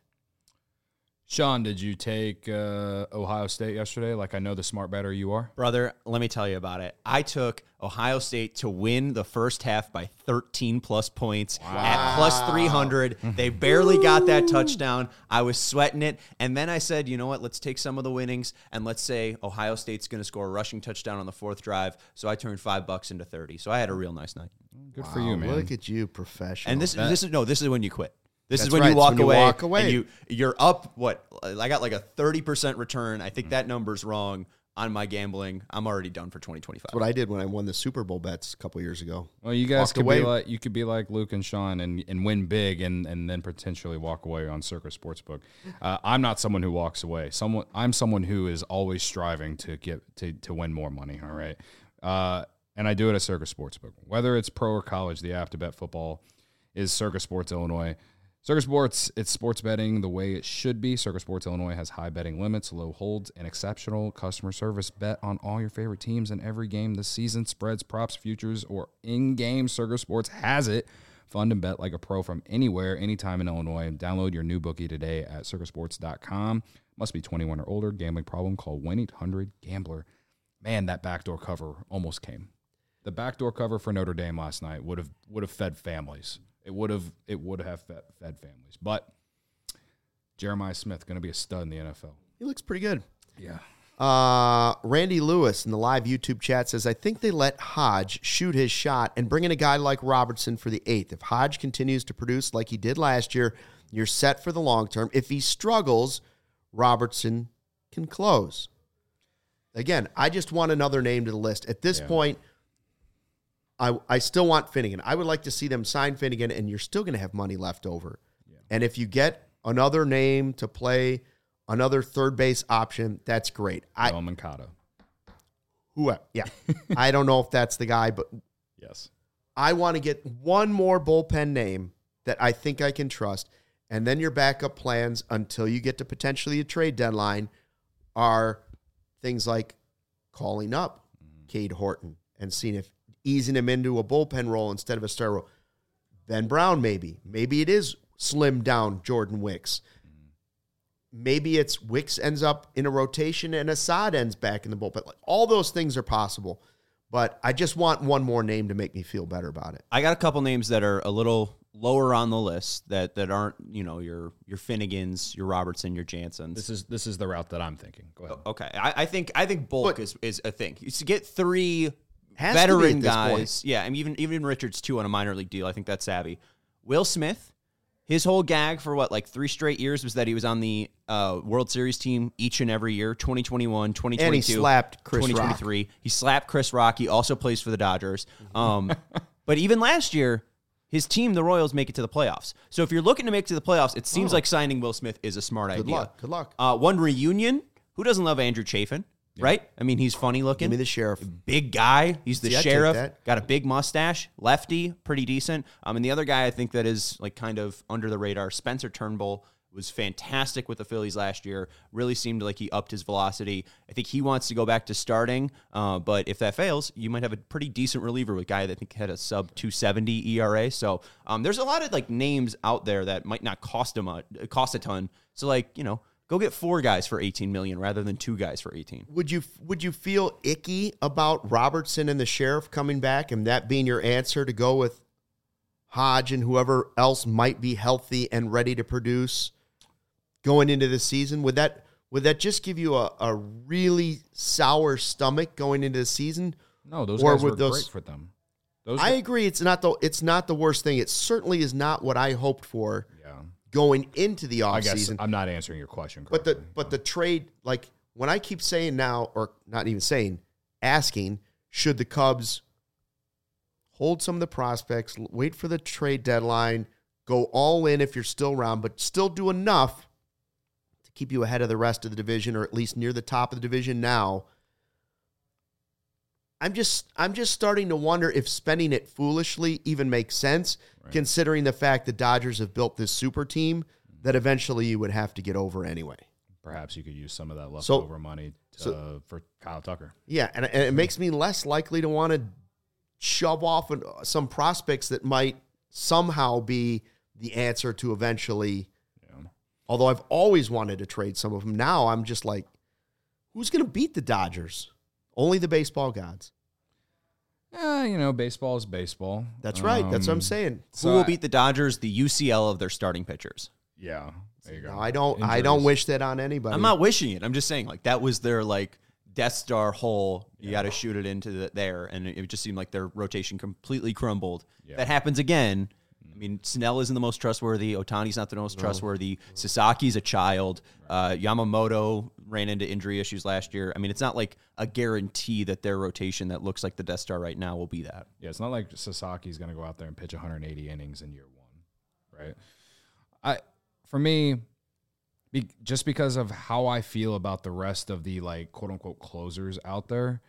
Sean, did you take uh, Ohio State yesterday? Like I know the smart better you are. Brother, let me tell you about it. I took Ohio State to win the first half by thirteen plus points at plus three hundred. They barely got that touchdown. I was sweating it. And then I said, you know what? Let's take some of the winnings and let's say Ohio State's going to score a rushing touchdown on the fourth drive. So I turned five bucks into thirty. So I had a real nice night. Good Wow, for you, man. Look at you, professional. And this, this is no, this is when you quit. This That's is when right, you it's walk when you away, walk away. and you you're up. What I got like a thirty percent return. I think that number's wrong on my gambling. I'm already done for twenty twenty-five. That's what I did when I won the Super Bowl bets a couple years ago. Well, you guys Walked could away. be like you could be like Luke and Sean and, and win big and, and then potentially walk away on Circus Sportsbook. Uh, I'm not someone who walks away. Someone I'm someone who is always striving to get to, to win more money. All right, uh, and I do it at Circus Sportsbook. Whether it's pro or college, the app to bet football is Circus Sports Illinois. Circus Sports, it's sports betting the way it should be. Circus Sports Illinois has high betting limits, low holds, and exceptional customer service. Bet on all your favorite teams in every game this season. Spreads, props, futures, or in-game. Circus Sports has it. Fund and bet like a pro from anywhere, anytime in Illinois. Download your new bookie today at circus sports dot com. Must be twenty-one or older. Gambling problem? Call one eight hundred gambler. Man, that backdoor cover almost came. The backdoor cover for Notre Dame last night would have would have fed families. It would have it would have fed, fed families. But Jeremiah Smith going to be a stud in the N F L. He looks pretty good. Yeah. Uh, Randy Lewis in the live YouTube chat says, I think they let Hodge shoot his shot and bring in a guy like Robertson for the eighth. If Hodge continues to produce like he did last year, you're set for the long term. If he struggles, Robertson can close. Again, I just want another name to the list. At this Yeah. point, I, I still want Finnegan. I would like to see them sign Finnegan, and you're still going to have money left over. Yeah. And if you get another name to play, another third base option, that's great. I Noah Mancata. who? Yeah, I don't know if that's the guy, but Yes. I want to get one more bullpen name that I think I can trust, and then your backup plans until you get to potentially a trade deadline are things like calling up Cade Horton and seeing if easing him into a bullpen role instead of a star role. Ben Brown, maybe. Maybe it is slimmed down Jordan Wicks. Maybe it's Wicks ends up in a rotation and Assad ends back in the bullpen. Like, all those things are possible. But I just want one more name to make me feel better about it. I got a couple names that are a little lower on the list that, that aren't, you know, your your Finnegans, your Robertson, your Jansons. This is this is the route that I'm thinking. Go ahead. Okay, I, I think I think bulk But- is, is a thing. You should get three Has to be veteran at this guys. point. Yeah, I mean even even Richards too on a minor league deal. I think that's savvy. Will Smith, his whole gag for what like three straight years was that he was on the uh, World Series team each and every year. twenty twenty-one, twenty twenty-two, And he slapped Chris twenty twenty-three. He slapped Chris Rock. He also plays for the Dodgers. Um, but even last year, his team, the Royals, make it to the playoffs. So if you're looking to make it to the playoffs, it seems Oh. like signing Will Smith is a smart Good idea. luck. Good luck. Uh, one reunion. Who doesn't love Andrew Chafin, right? I mean, he's funny looking. Give me the sheriff. Big guy. He's the See, I'd take sheriff. that. Got a big mustache. Lefty. Pretty decent. Um, and the other guy I think that is like kind of under the radar, Spencer Turnbull, was fantastic with the Phillies last year. Really seemed like he upped his velocity. I think he wants to go back to starting. Uh, but if that fails, you might have a pretty decent reliever with a guy that I think had a sub two seventy E R A. So um, there's a lot of like names out there that might not cost a mu- cost a ton. So like, you know, go get four guys for eighteen million rather than two guys for eighteen. Would you would you feel icky about Robertson and the sheriff coming back and that being your answer to go with Hodge and whoever else might be healthy and ready to produce going into the season? Would that would that just give you a, a really sour stomach going into the season? No, those Or guys with were those- great for them. Those I agree. It's not the it's not the worst thing. It certainly is not what I hoped for yeah. going into the I guess offseason. I'm not answering your question But correctly. the but the trade, like when I keep saying now, or not even saying, asking, should the Cubs hold some of the prospects, wait for the trade deadline, go all in if you're still around, but still do enough to keep you ahead of the rest of the division, or at least near the top of the division now. I'm just I'm just starting to wonder if spending it foolishly even makes sense, right, considering the fact the Dodgers have built this super team that eventually you would have to get over anyway. Perhaps you could use some of that leftover so, money to, so, for Kyle Tucker. Yeah, and, and it makes me less likely to want to shove off some prospects that might somehow be the answer to eventually. Yeah. Although I've always wanted to trade some of them. Now I'm just like, who's going to beat the Dodgers? Only the baseball gods. Yeah, you know, baseball is baseball. That's right. Um, That's what I'm saying. Who will beat the Dodgers? The U C L of their starting pitchers. Yeah, there you go. No, I don't. Injuries. I don't wish that on anybody. I'm not wishing it. I'm just saying, like, that was their like Death Star hole. You yeah. got to shoot it into the, there, and it, it just seemed like their rotation completely crumbled. Yeah. That happens again. I mean, Snell isn't the most trustworthy. Otani's not the most no. trustworthy. No. Sasaki's a child. Uh, Yamamoto ran into injury issues last year. I mean, it's not like a guarantee that their rotation that looks like the Death Star right now will be that. Yeah, it's not like Sasaki's going to go out there and pitch one hundred eighty innings in year one, right? I, for me, be, just because of how I feel about the rest of the, like, quote-unquote closers out there,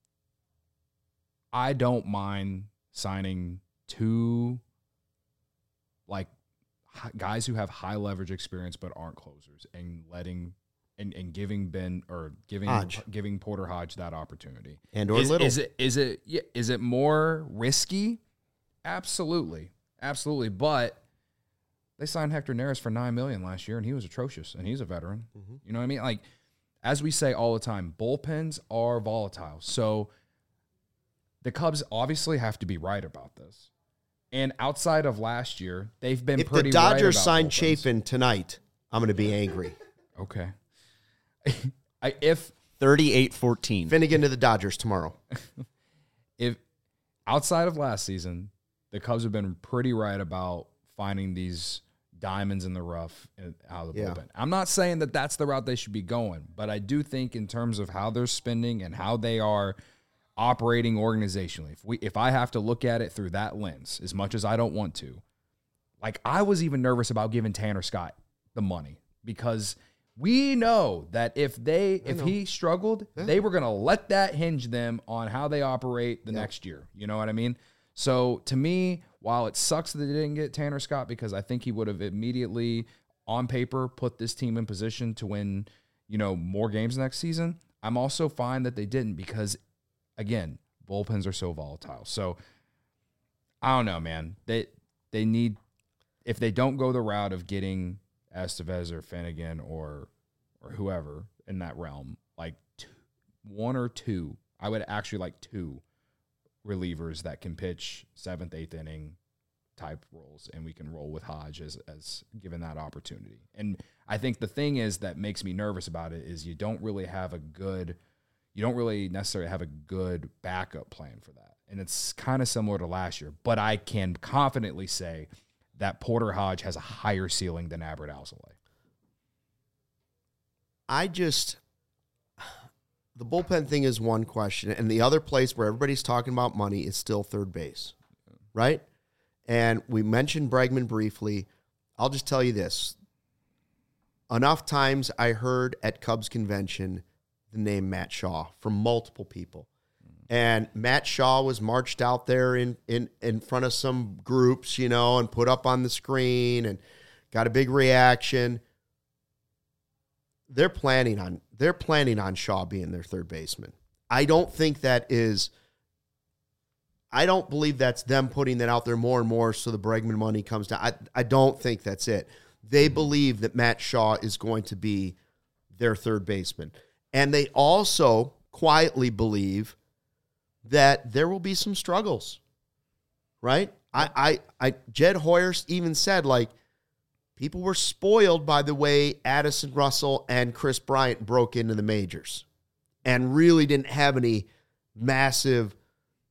I don't mind signing two – like guys who have high leverage experience but aren't closers, and letting and, and giving Ben or giving Hodge. giving Porter Hodge that opportunity. And or is, Little. Is it is it yeah, is it more risky? Absolutely. Absolutely. But they signed Hector Neris for nine million dollars last year, and he was atrocious, and he's a veteran. Mm-hmm. You know what I mean? Like, as we say all the time, bullpens are volatile. So the Cubs obviously have to be right about this. And outside of last year, they've been if pretty. If the Dodgers right sign bullpens. Chafin tonight, I'm going to be angry. Okay. I, if thirty-eight fourteen Finnegan to the Dodgers tomorrow. If outside of last season, the Cubs have been pretty right about finding these diamonds in the rough out of the yeah. bullpen. I'm not saying that that's the route they should be going, but I do think in terms of how they're spending and how they are operating organizationally, if we if I have to look at it through that lens, as much as I don't want to, like I was even nervous about giving Tanner Scott the money, because we know that if they if he struggled, yeah. they were going to let that hinge them on how they operate the yeah. next year. You know what I mean? So to me, while it sucks that they didn't get Tanner Scott, because I think he would have immediately on paper put this team in position to win, you know, more games next season, I'm also fine that they didn't, because again, bullpens are so volatile. So I don't know, man. They they need, if they don't go the route of getting Estevez or Finnegan or or whoever in that realm, like two, one or two, I would actually like two relievers that can pitch seventh, eighth inning type roles, and we can roll with Hodge as as given that opportunity. And I think the thing is that makes me nervous about it is you don't really have a good. You don't really necessarily have a good backup plan for that. And it's kind of similar to last year. But I can confidently say that Porter Hodge has a higher ceiling than Albert Alzolay. I just, the bullpen thing is one question. And the other place where everybody's talking about money is still third base, right? And we mentioned Bregman briefly. I'll just tell you this. Enough times I heard at Cubs convention the name Matt Shaw from multiple people. And Matt Shaw was marched out there in, in, in front of some groups, you know, and put up on the screen and got a big reaction. They're planning on they're planning on Shaw being their third baseman. I don't think that is I don't believe that's them putting that out there more and more so the Bregman money comes down. I, I don't think that's it. They believe that Matt Shaw is going to be their third baseman. And they also quietly believe that there will be some struggles, right? I, I, I, Jed Hoyer even said, like, people were spoiled by the way Addison Russell and Chris Bryant broke into the majors and really didn't have any massive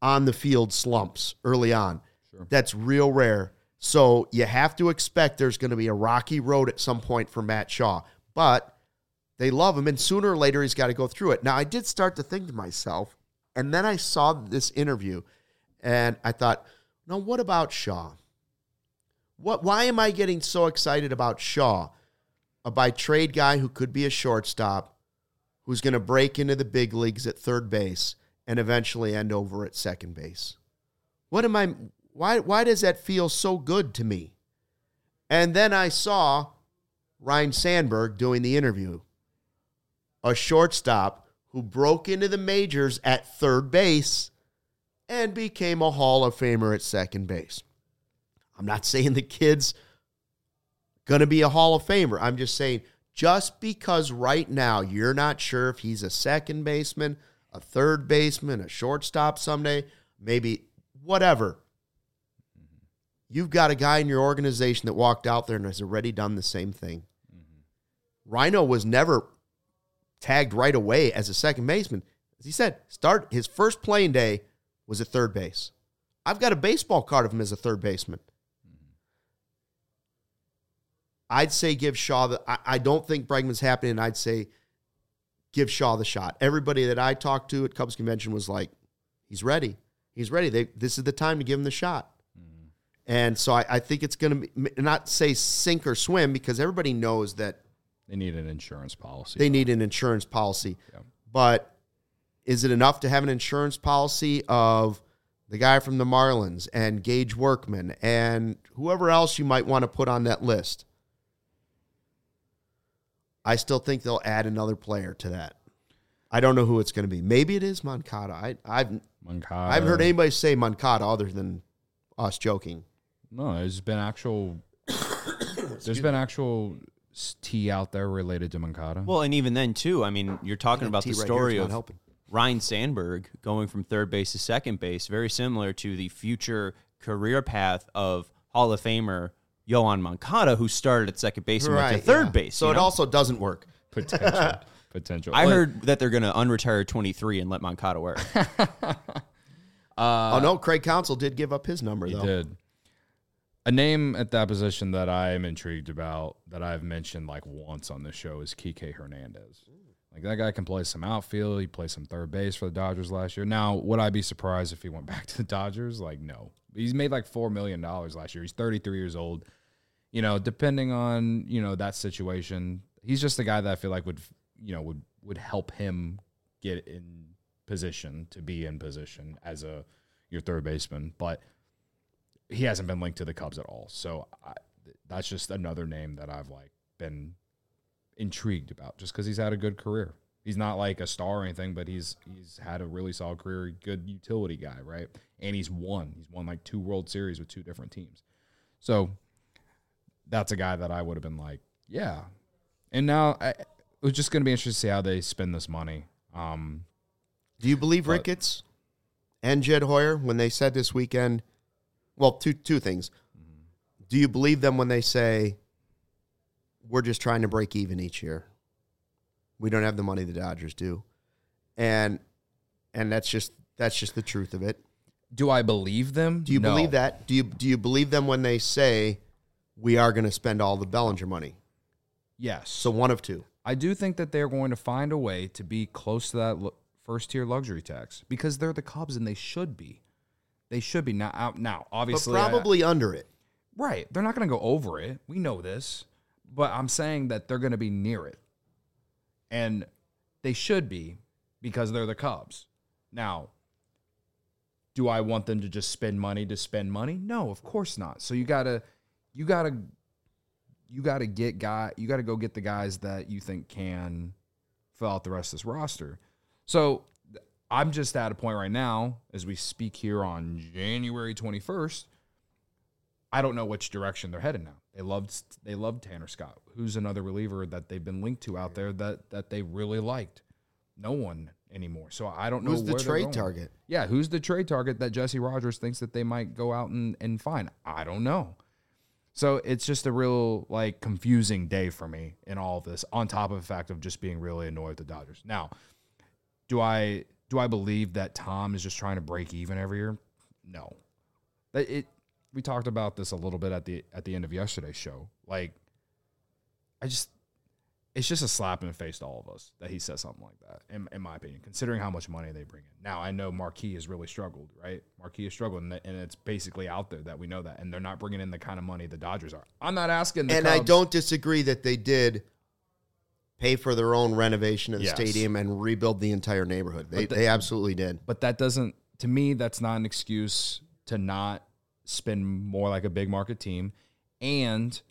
on the field slumps early on. Sure. That's real rare. So you have to expect there's going to be a rocky road at some point for Matt Shaw. But they love him, and sooner or later he's got to go through it. Now, I did start to think to myself, and then I saw this interview, and I thought, no, what about Shaw? What? Why am I getting so excited about Shaw, a by-trade guy who could be a shortstop, who's going to break into the big leagues at third base and eventually end over at second base? What am I? Why? Why does that feel so good to me? And then I saw Ryne Sandberg doing the interview, a shortstop who broke into the majors at third base and became a Hall of Famer at second base. I'm not saying the kid's going to be a Hall of Famer. I'm just saying just because right now you're not sure if he's a second baseman, a third baseman, a shortstop someday, maybe whatever, you've got a guy in your organization that walked out there and has already done the same thing. Mm-hmm. Rhino was never tagged right away as a second baseman. As he said, start his first playing day was at third base. I've got a baseball card of him as a third baseman. I'd say give Shaw the, I, I don't think Bregman's happening. I'd say give Shaw the shot. Everybody that I talked to at Cubs convention was like, he's ready. He's ready. They, this is the time to give him the shot. Mm-hmm. And so I, I think it's going to be, not say sink or swim, because everybody knows that they need an insurance policy. They need an insurance policy. Yeah. But is it enough to have an insurance policy of the guy from the Marlins and Gage Workman and whoever else you might want to put on that list? I still think they'll add another player to that. I don't know who it's going to be. Maybe it is Moncada. I, I've Moncada. I haven't heard anybody say Moncada other than us joking. No, there's been actual. there's been actual tea out there related to Moncada. Well, and even then too, I mean, you're talking about the story of helping. Ryne Sandberg going from third base to second base, very similar to the future career path of Hall of Famer Yohan Moncada, who started at second base and right, went to third yeah. base. So it know? also doesn't work. Potential. Potential. I Like, heard that they're going to unretire twenty-three and let Moncada work. uh, oh, no, Craig Counsell did give up his number, he though. did. A name at that position that I am intrigued about, that I've mentioned like once on this show, is Kike Hernandez. Like, that guy can play some outfield. He played some third base for the Dodgers last year. Now, would I be surprised if he went back to the Dodgers? Like, no. He's made like four million dollars last year. He's thirty-three years old. You know, depending on, you know, that situation, he's just the guy that I feel like would, you know, would, would help him get in position to be in position as a your third baseman. But he hasn't been linked to the Cubs at all. So I, that's just another name that I've like been intrigued about, just because he's had a good career. He's not like a star or anything, but he's he's had a really solid career, good utility guy, right? And he's won. He's won like two World Series with two different teams. So that's a guy that I would have been like, yeah. And now I, it was just going to be interesting to see how they spend this money. Um, Do you believe but, Ricketts and Jed Hoyer when they said this weekend? Well, two two things. Mm-hmm. Do you believe them when they say, we're just trying to break even each year? We don't have the money the Dodgers do. And and that's just that's just the truth of it. Do I believe them? Do you No. believe that? Do you do you believe them when they say we are going to spend all the Bellinger money? Yes. So one of two. I do think that they're going to find a way to be close to that lo- first-tier luxury tax, because they're the Cubs and they should be. They should be. Now, out now But obviously. I- probably under it. right. They're not going to go over it. We know this. But I'm saying that they're going to be near it. And they should be, because they're the Cubs. Now, do I want them to just spend money to spend money? No, of course not. So you gotta, you gotta, you gotta get guy, you gotta go get the guys that you think can fill out the rest of this roster. So I'm just at a point right now, as we speak here on January twenty-first. I don't know which direction they're headed now. They loved they loved Tanner Scott, who's another reliever that they've been linked to out there that that they really liked. No one anymore. So I don't know Who's the where they're trade going. target? Yeah, who's the trade target that Jesse Rogers thinks that they might go out and, and find? I don't know. So it's just a real like confusing day for me in all of this, on top of the fact of just being really annoyed with the Dodgers. Now, do I do I believe that Tom is just trying to break even every year? No. It, it we talked about this a little bit at the at the end of yesterday's show. Like, I just it's just a slap in the face to all of us that he says something like that, in, in my opinion, considering how much money they bring in. Now, I know Marquee has really struggled, right? Marquee has struggled, and, and it's basically out there that we know that, and they're not bringing in the kind of money the Dodgers are. I'm not asking the And Cubs, I don't disagree that they did pay for their own renovation of the Yes. stadium and rebuild the entire neighborhood. They, the- they absolutely did. but that doesn't, to me, that's not an excuse to not spend more like a big market team. And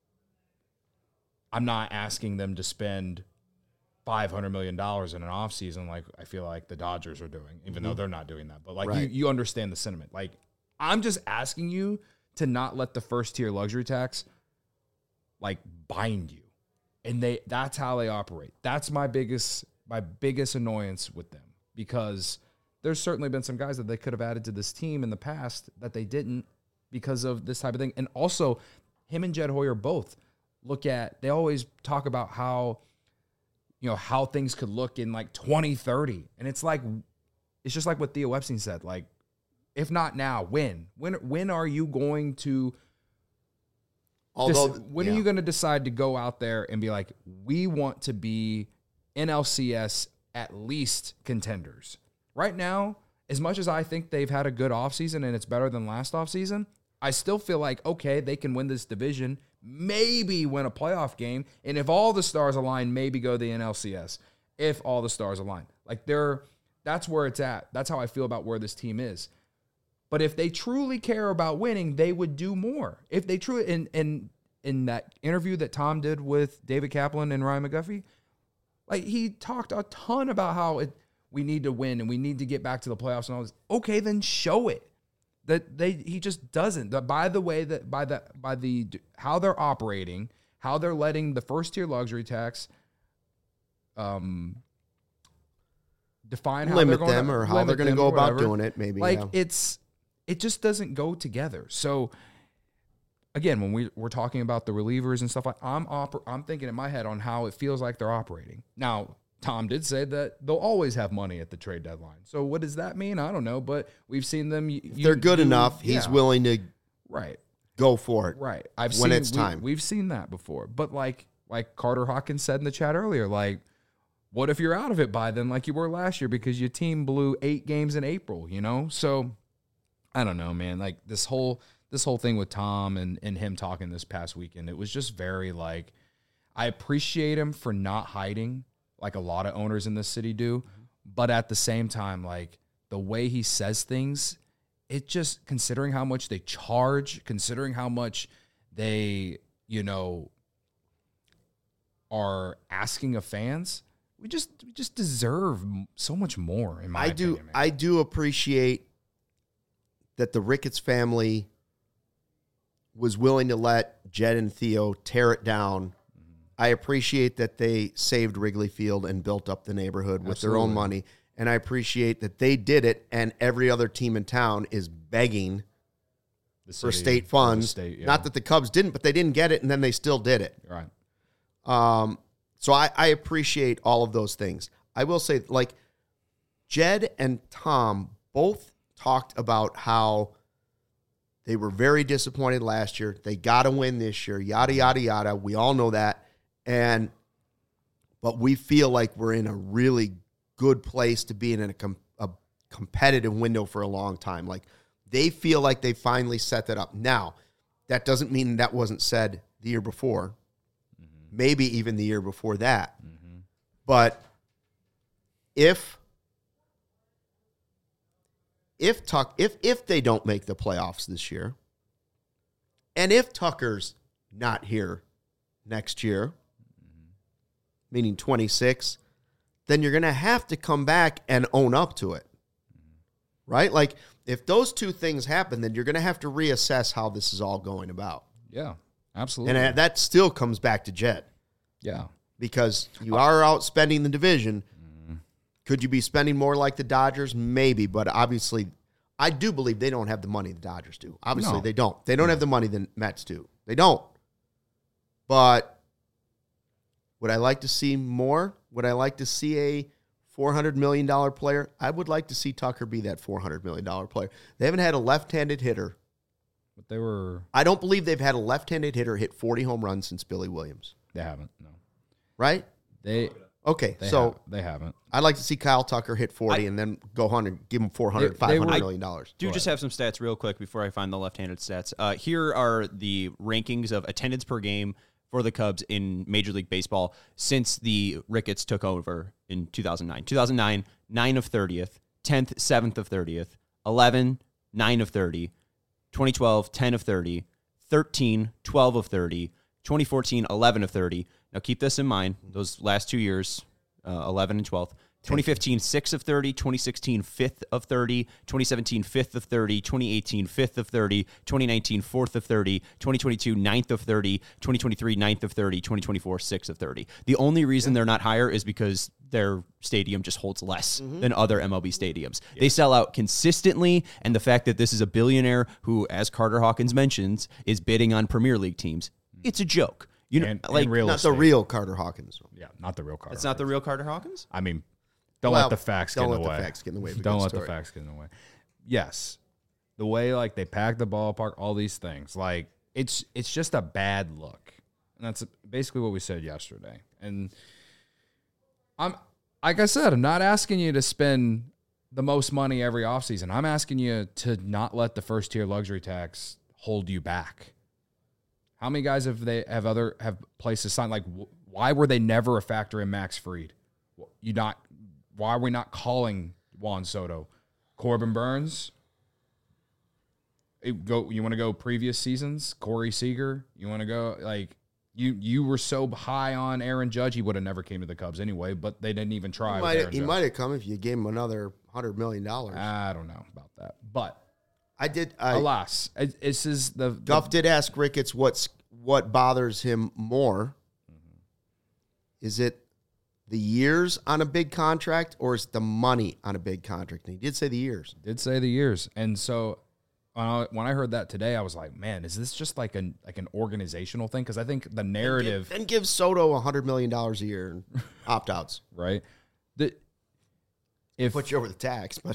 I'm not asking them to spend five hundred million dollars in an offseason like I feel like the Dodgers are doing, even though they're not doing that. But, like, Right. you, you understand the sentiment. Like, I'm just asking you to not let the first-tier luxury tax, like, bind you. And they that's how they operate. That's my biggest my biggest annoyance with them, because there's certainly been some guys that they could have added to this team in the past that they didn't because of this type of thing. And also, him and Jed Hoyer both look at, they always talk about how, you know, how things could look in like twenty thirty. And it's like, it's just like what Theo Epstein said. Like, if not now, when? When when are you going to Although, Dis- when yeah. are you going to decide to go out there and be like, we want to be N L C S at least contenders? Right now, as much as I think they've had a good offseason and it's better than last offseason, I still feel like, okay, they can win this division, maybe win a playoff game, and if all the stars align, maybe go to the N L C S, if all the stars align. Like, they're, that's where it's at. That's how I feel about where this team is. But if they truly care about winning, they would do more. If they truly, in in in that interview that Tom did with David Kaplan and Ryan McGuffey, like, he talked a ton about how it, we need to win and we need to get back to the playoffs and all this. Okay, then show it. That they he just doesn't. That by the way that by the by the how they're operating, how they're letting the first tier luxury tax um define how limit they're going them to, or how limit they're going to them go or about whatever. doing it, maybe. Like, yeah. it's it just doesn't go together. So again, when we we're talking about the relievers and stuff, like I'm oper- I'm thinking in my head on how it feels like they're operating. Now, Tom did say that they'll always have money at the trade deadline. So what does that mean? I don't know, but we've seen them. You, If they're good you- enough, he's yeah, willing to right, go for it. right. I've when seen it's we- time. We've seen that before. But like like Carter Hawkins said in the chat earlier, like, what if you're out of it by then, like you were last year, because your team blew eight games in April? You know, so I don't know, man. Like, this whole this whole thing with Tom and, and him talking this past weekend, it was just very, like, I appreciate him for not hiding like a lot of owners in this city do. But at the same time, like, the way he says things, it just, considering how much they charge, considering how much they, you know, are asking of fans, we just we just deserve so much more, in my I do opinion, man. I do appreciate that the Ricketts family was willing to let Jed and Theo tear it down. I appreciate that they saved Wrigley Field and built up the neighborhood with their own Absolutely. money. And I appreciate that they did it, and every other team in town is begging The for city, state for the funds. state, yeah. Not that the Cubs didn't, but they didn't get it, and then they still did it. Right. Um, so I, I appreciate all of those things. I will say, like, Jed and Tom both talked about how they were very disappointed last year. They got to win this year, yada, yada, yada. We all know that. And, but we feel like we're in a really good place to be in a, com- a competitive window for a long time. Like, they feel like they finally set that up. Now, that doesn't mean that wasn't said the year before. Maybe even the year before that. Mm-hmm. But if if Tuck if if they don't make the playoffs this year, and if Tucker's not here next year, mm-hmm. meaning twenty-six, then you're going to have to come back and own up to it. Mm-hmm. Right? Like, if those two things happen, then you're going to have to reassess how this is all going about. Yeah, absolutely. And that still comes back to Jed. yeah. Because you are outspending the division. Could you be spending more like the Dodgers? Maybe, but obviously, I do believe they don't have the money the Dodgers do. Obviously, No. they don't. They don't have the money the Mets do. They don't. But would I like to see more? Would I like to see a four hundred million dollars player. I would like to see Tucker be that four hundred million dollars player. They haven't had a left-handed hitter. But they were. I don't believe they've had a left-handed hitter hit forty home runs since Billy Williams. They haven't. No. Right? They. Okay, They so have, they haven't. I'd like to see Kyle Tucker hit forty I, and then go one hundred, give him four hundred, They- they five hundred were- million dollars. Do just have some stats real quick before I find the left-handed stats. Uh, here are the rankings of attendance per game for the Cubs in Major League Baseball since the Ricketts took over in two thousand nine. two thousand nine, nine of thirtieth, tenth, seventh of thirtieth, eleven, nine of thirty, twenty twelve, ten of thirty, thirteen, twelve of thirty, twenty fourteen, eleven of thirty. Now keep this in mind, those last two years, uh, eleven and twelve. twenty fifteen, six of thirty, twenty sixteen, fifth of thirty, twenty seventeen, fifth of thirty, twenty eighteen, fifth of thirty, twenty nineteen, fourth of thirty, twenty twenty-two, ninth of thirty, twenty twenty-three, ninth of thirty, twenty twenty-four, sixth of thirty. The only reason they're not higher is because their stadium just holds less Mm-hmm. than other M L B stadiums. They sell out consistently, and the fact that this is a billionaire who, as Carter Hawkins mentions, is bidding on Premier League teams, it's a joke. You know, And, like and real Not the estate. real Carter Hawkins. Yeah, not the real Carter. it's not the real Carter Hawkins? I mean, don't Well, let the facts don't get in let the the way. facts get in the way of a Don't good let story. the facts get in the way. Yes, the way like they pack the ballpark, all these things, like it's it's just a bad look, and that's basically what we said yesterday. And I'm like I said, I'm not asking you to spend the most money every offseason. I'm asking you to not let the first tier luxury tax hold you back. How many guys have they have other have places signed? Like, wh- why were they never a factor in Max Fried? You not why are we not calling Juan Soto, Corbin Burns? It go you want to go previous seasons? Corey Seager? You want to go like you you were so high on Aaron Judge, he would have never came to the Cubs anyway. But they didn't even try. He with might, Aaron he Judge. might have come if you gave him another one hundred million dollars. I don't know about that, but I did. I, alas, it- this is the, the Guff did ask Ricketts what's what bothers him more. Is it the years on a big contract or is it the money on a big contract? And he did say the years. did say the years, and so when I, when I heard that today, I was like, man, is this just like an like an organizational thing? Because I think the narrative, Then give Soto one hundred million dollars a year and opt outs. right? The if Put you over the tax, but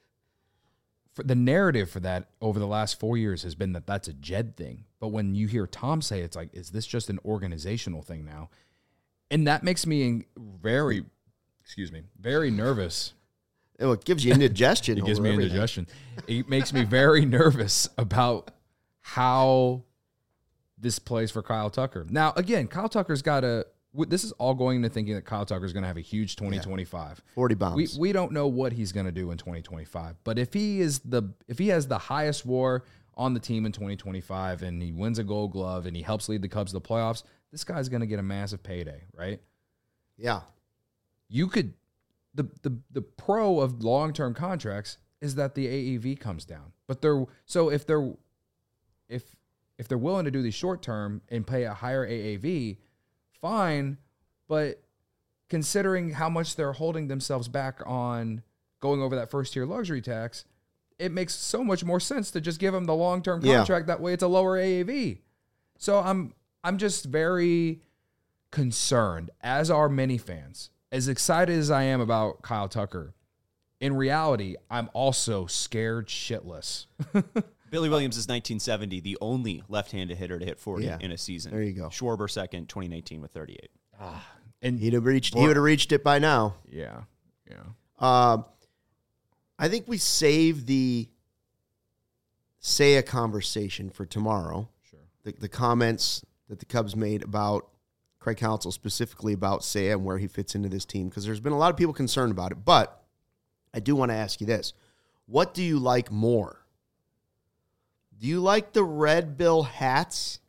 for the narrative for that over the last four years has been that that's a Jed thing. But when you hear Tom say it's like, is this just an organizational thing now? And that makes me very, excuse me, very nervous. it gives you indigestion. It gives over me everything. indigestion. It makes me very nervous about how this plays for Kyle Tucker. Now, again, Kyle Tucker's got a. This is all going into thinking that Kyle Tucker's going to have a huge twenty twenty-five. forty We bombs. we don't know what he's going to do in twenty twenty-five. But if he is the if he has the highest WAR on the team in twenty twenty-five and he wins a Gold Glove and he helps lead the Cubs to the playoffs, this guy's going to get a massive payday, right? yeah. You could the the the pro of long-term contracts is that the A A V comes down. But they're so if they're if if they're willing to do these short-term and pay a higher A A V, fine, but considering how much they're holding themselves back on going over that first-tier luxury tax, it makes so much more sense to just give them the long-term Yeah. contract. That way it's a lower A A V. So I'm I'm just very concerned, as are many fans. As excited as I am about Kyle Tucker, in reality, I'm also scared shitless. Billy Williams is nineteen seventy, the only left-handed hitter to hit forty Yeah. in a season. There you go. Schwarber second, twenty nineteen with thirty-eight. And He'd have reached. He would have reached it by now. yeah, yeah. Um, I think we save the Seiya conversation for tomorrow. Sure. The, the comments that the Cubs made about Craig Counsell, specifically about Seiya and where he fits into this team, because there's been a lot of people concerned about it. But I do want to ask you this. What do you like more? Do you like the red bill hats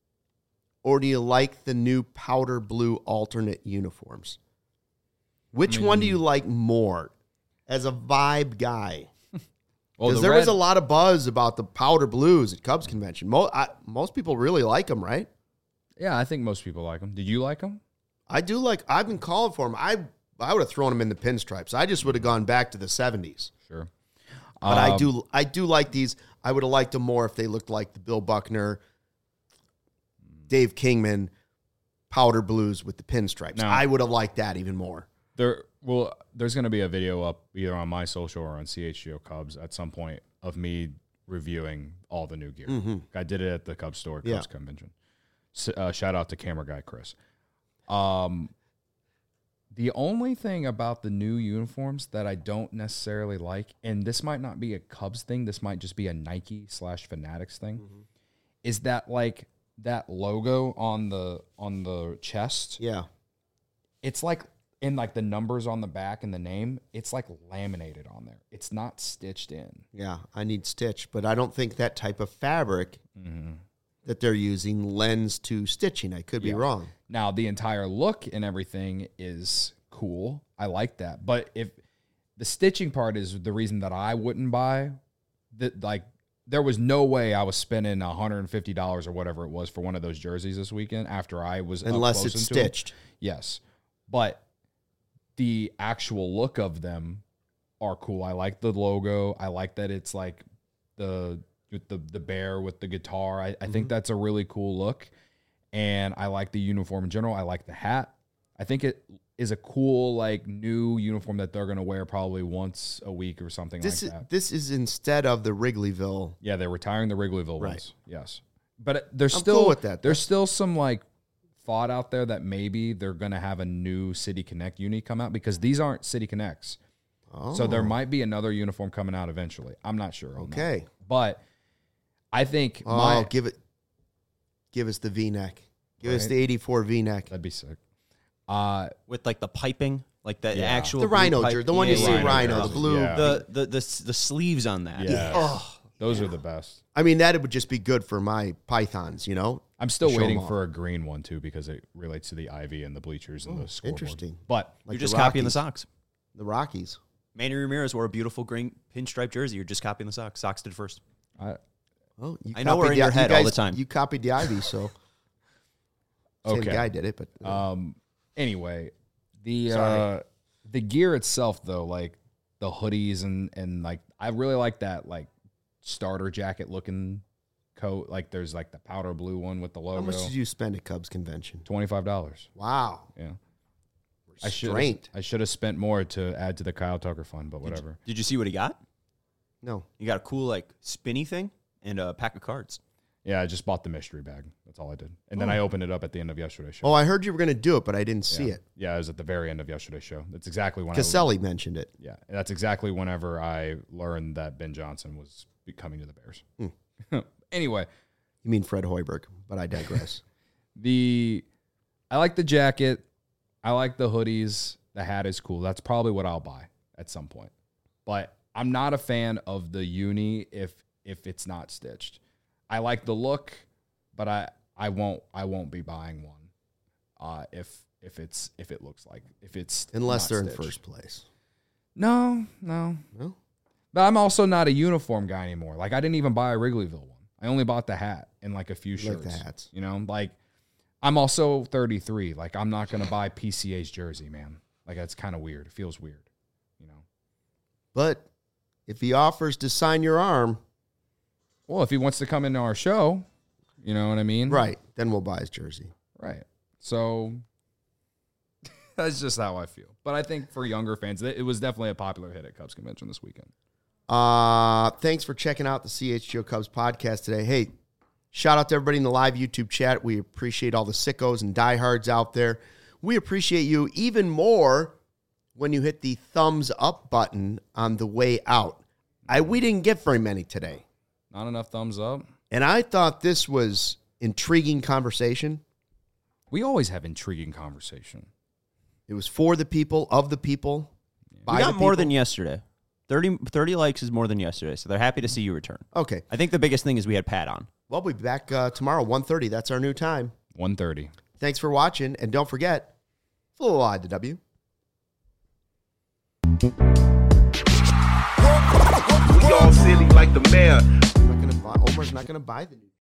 or do you like the new powder blue alternate uniforms? Which one do you like more as a vibe guy? Well, Because the there was red- a lot of buzz about the powder blues at Cubs convention. Most, I, most people really like them, right? yeah, I think most people like him. Did you like him? I do like. I've been calling for them. I I would have thrown them in the pinstripes. I just would have gone back to the seventies. Sure. But I Um, do I do like these. I would have liked them more if they looked like the Bill Buckner, Dave Kingman powder blues with the pinstripes. No. I would have liked that even more. There, well, there's going to be a video up either on my social or on C H G O Cubs at some point of me reviewing all the new gear. Mm-hmm. I did it at the Cubs store, Cubs Yeah. convention. S- Uh, shout out to camera guy Chris. Um, the only thing about the new uniforms that I don't necessarily like, and this might not be a Cubs thing, this might just be a Nike slash Fanatics thing, Mm-hmm. is that like that logo on the on the chest. Yeah. It's like in like the numbers on the back and the name, it's like laminated on there. It's not stitched in. Yeah. I need stitch, but I don't think that type of fabric Mm-hmm. that they're using lends to stitching. I could be Yeah. wrong. Now the entire look and everything is cool. I like that. But if the stitching part is the reason that I wouldn't buy that, like there was no way I was spending one hundred fifty dollars or whatever it was for one of those jerseys this weekend after I was up Unless close it's into 'em. stitched. Yes. But the actual look of them are cool. I like the logo. I like that it's like the with the, the bear with the guitar. I, I Mm-hmm. think that's a really cool look. And I like the uniform in general. I like the hat. I think it is a cool, like, new uniform that they're going to wear probably once a week or something This like is that. this is instead of the Wrigleyville. Yeah, they're retiring the Wrigleyville Right. ones. Yes. But it- there's I'm still cool with that. There's still some like thought out there that maybe they're going to have a new City Connect uni come out because these aren't City Connects. Oh, So there might be another uniform coming out eventually. I'm not sure. on that. okay. But I think Oh, my give it. Give us the V-neck. Give us Right. the eighty-four V-neck. that'd be sick. Uh With like the piping, like the Yeah. actual The blue rhino pipe- jersey, the one you Yeah, see yeah, rhino, yeah. the blue. Yeah. The, the the the sleeves on that. Yeah. Oh, those are the best. I mean, that would just be good for my pythons, you know? I'm still Show 'em waiting off. for a green one too because it relates to the ivy and the bleachers and the scoreboard. interesting. But Like you're the just copying the Rockies. socks. The Rockies. Manny Ramirez wore a beautiful green pinstripe jersey. You're just copying the socks. Socks did first. I, Oh, you I know we're copied in the- your you head all guys- the time. You copied the Ivy, so same Okay. guy did it. But uh, Um. Anyway, the Sorry. uh, the gear itself, though, like the hoodies and and like I really like that like starter jacket looking coat. Like there's like the powder blue one with the how logo. much did you spend at Cubs convention? Twenty five dollars. Wow, Yeah. I should restraint. I should have spent more to add to the Kyle Tucker fund, but whatever. Did you see what he got? No, He got a cool like spinny thing and a pack of cards. Yeah, I just bought the mystery bag. That's all I did, and then I opened it up at the end of yesterday's show. oh, I heard you were going to do it, but I didn't see yeah. it. Yeah, it was at the very end of yesterday's show. That's exactly when I Caselli mentioned it. Yeah, and that's exactly whenever I learned that Ben Johnson was be- coming to the Bears. Hmm. Anyway, You mean Fred Hoiberg? But I digress. the I like the jacket. I like the hoodies. The hat is cool. That's probably what I'll buy at some point. But I'm not a fan of the uni if if it's not stitched. I like the look, but I I won't I won't be buying one uh, if if it's if it looks like if it's Unless not they're in stitched. first place. No, no. No? But I'm also not a uniform guy anymore. Like I didn't even buy a Wrigleyville one. I only bought the hat and like a few You like shirts. the hats. You know, like I'm also thirty-three. Like I'm not gonna buy P C A's jersey, man. Like that's kind of weird. It feels weird. You know. But if he offers to sign your arm, Well, if he wants to come into our show, you know what I mean? right, then we'll buy his jersey. Right. So that's just how I feel. But I think for younger fans, it it was definitely a popular hit at Cubs convention this weekend. Uh, thanks for checking out the C H G O Cubs podcast today. Hey, shout out to everybody in the live YouTube chat. We appreciate all the sickos and diehards out there. We appreciate you even more when you hit the thumbs up button on the way out. I we didn't get very many today. Not enough thumbs up. And I thought this was intriguing conversation. We always have intriguing conversation. It was for the people, of the people, by We got the more people. than yesterday. thirty, thirty likes is more than yesterday, so they're happy to see you return. Okay. I think the biggest thing is we had Pat on. Well, we'll be back uh, tomorrow, one thirty. That's our new time. one thirty. Thanks for watching, and don't forget, full I the W. We all silly like the mayor. I'm not gonna buy, Omar's not going to buy the new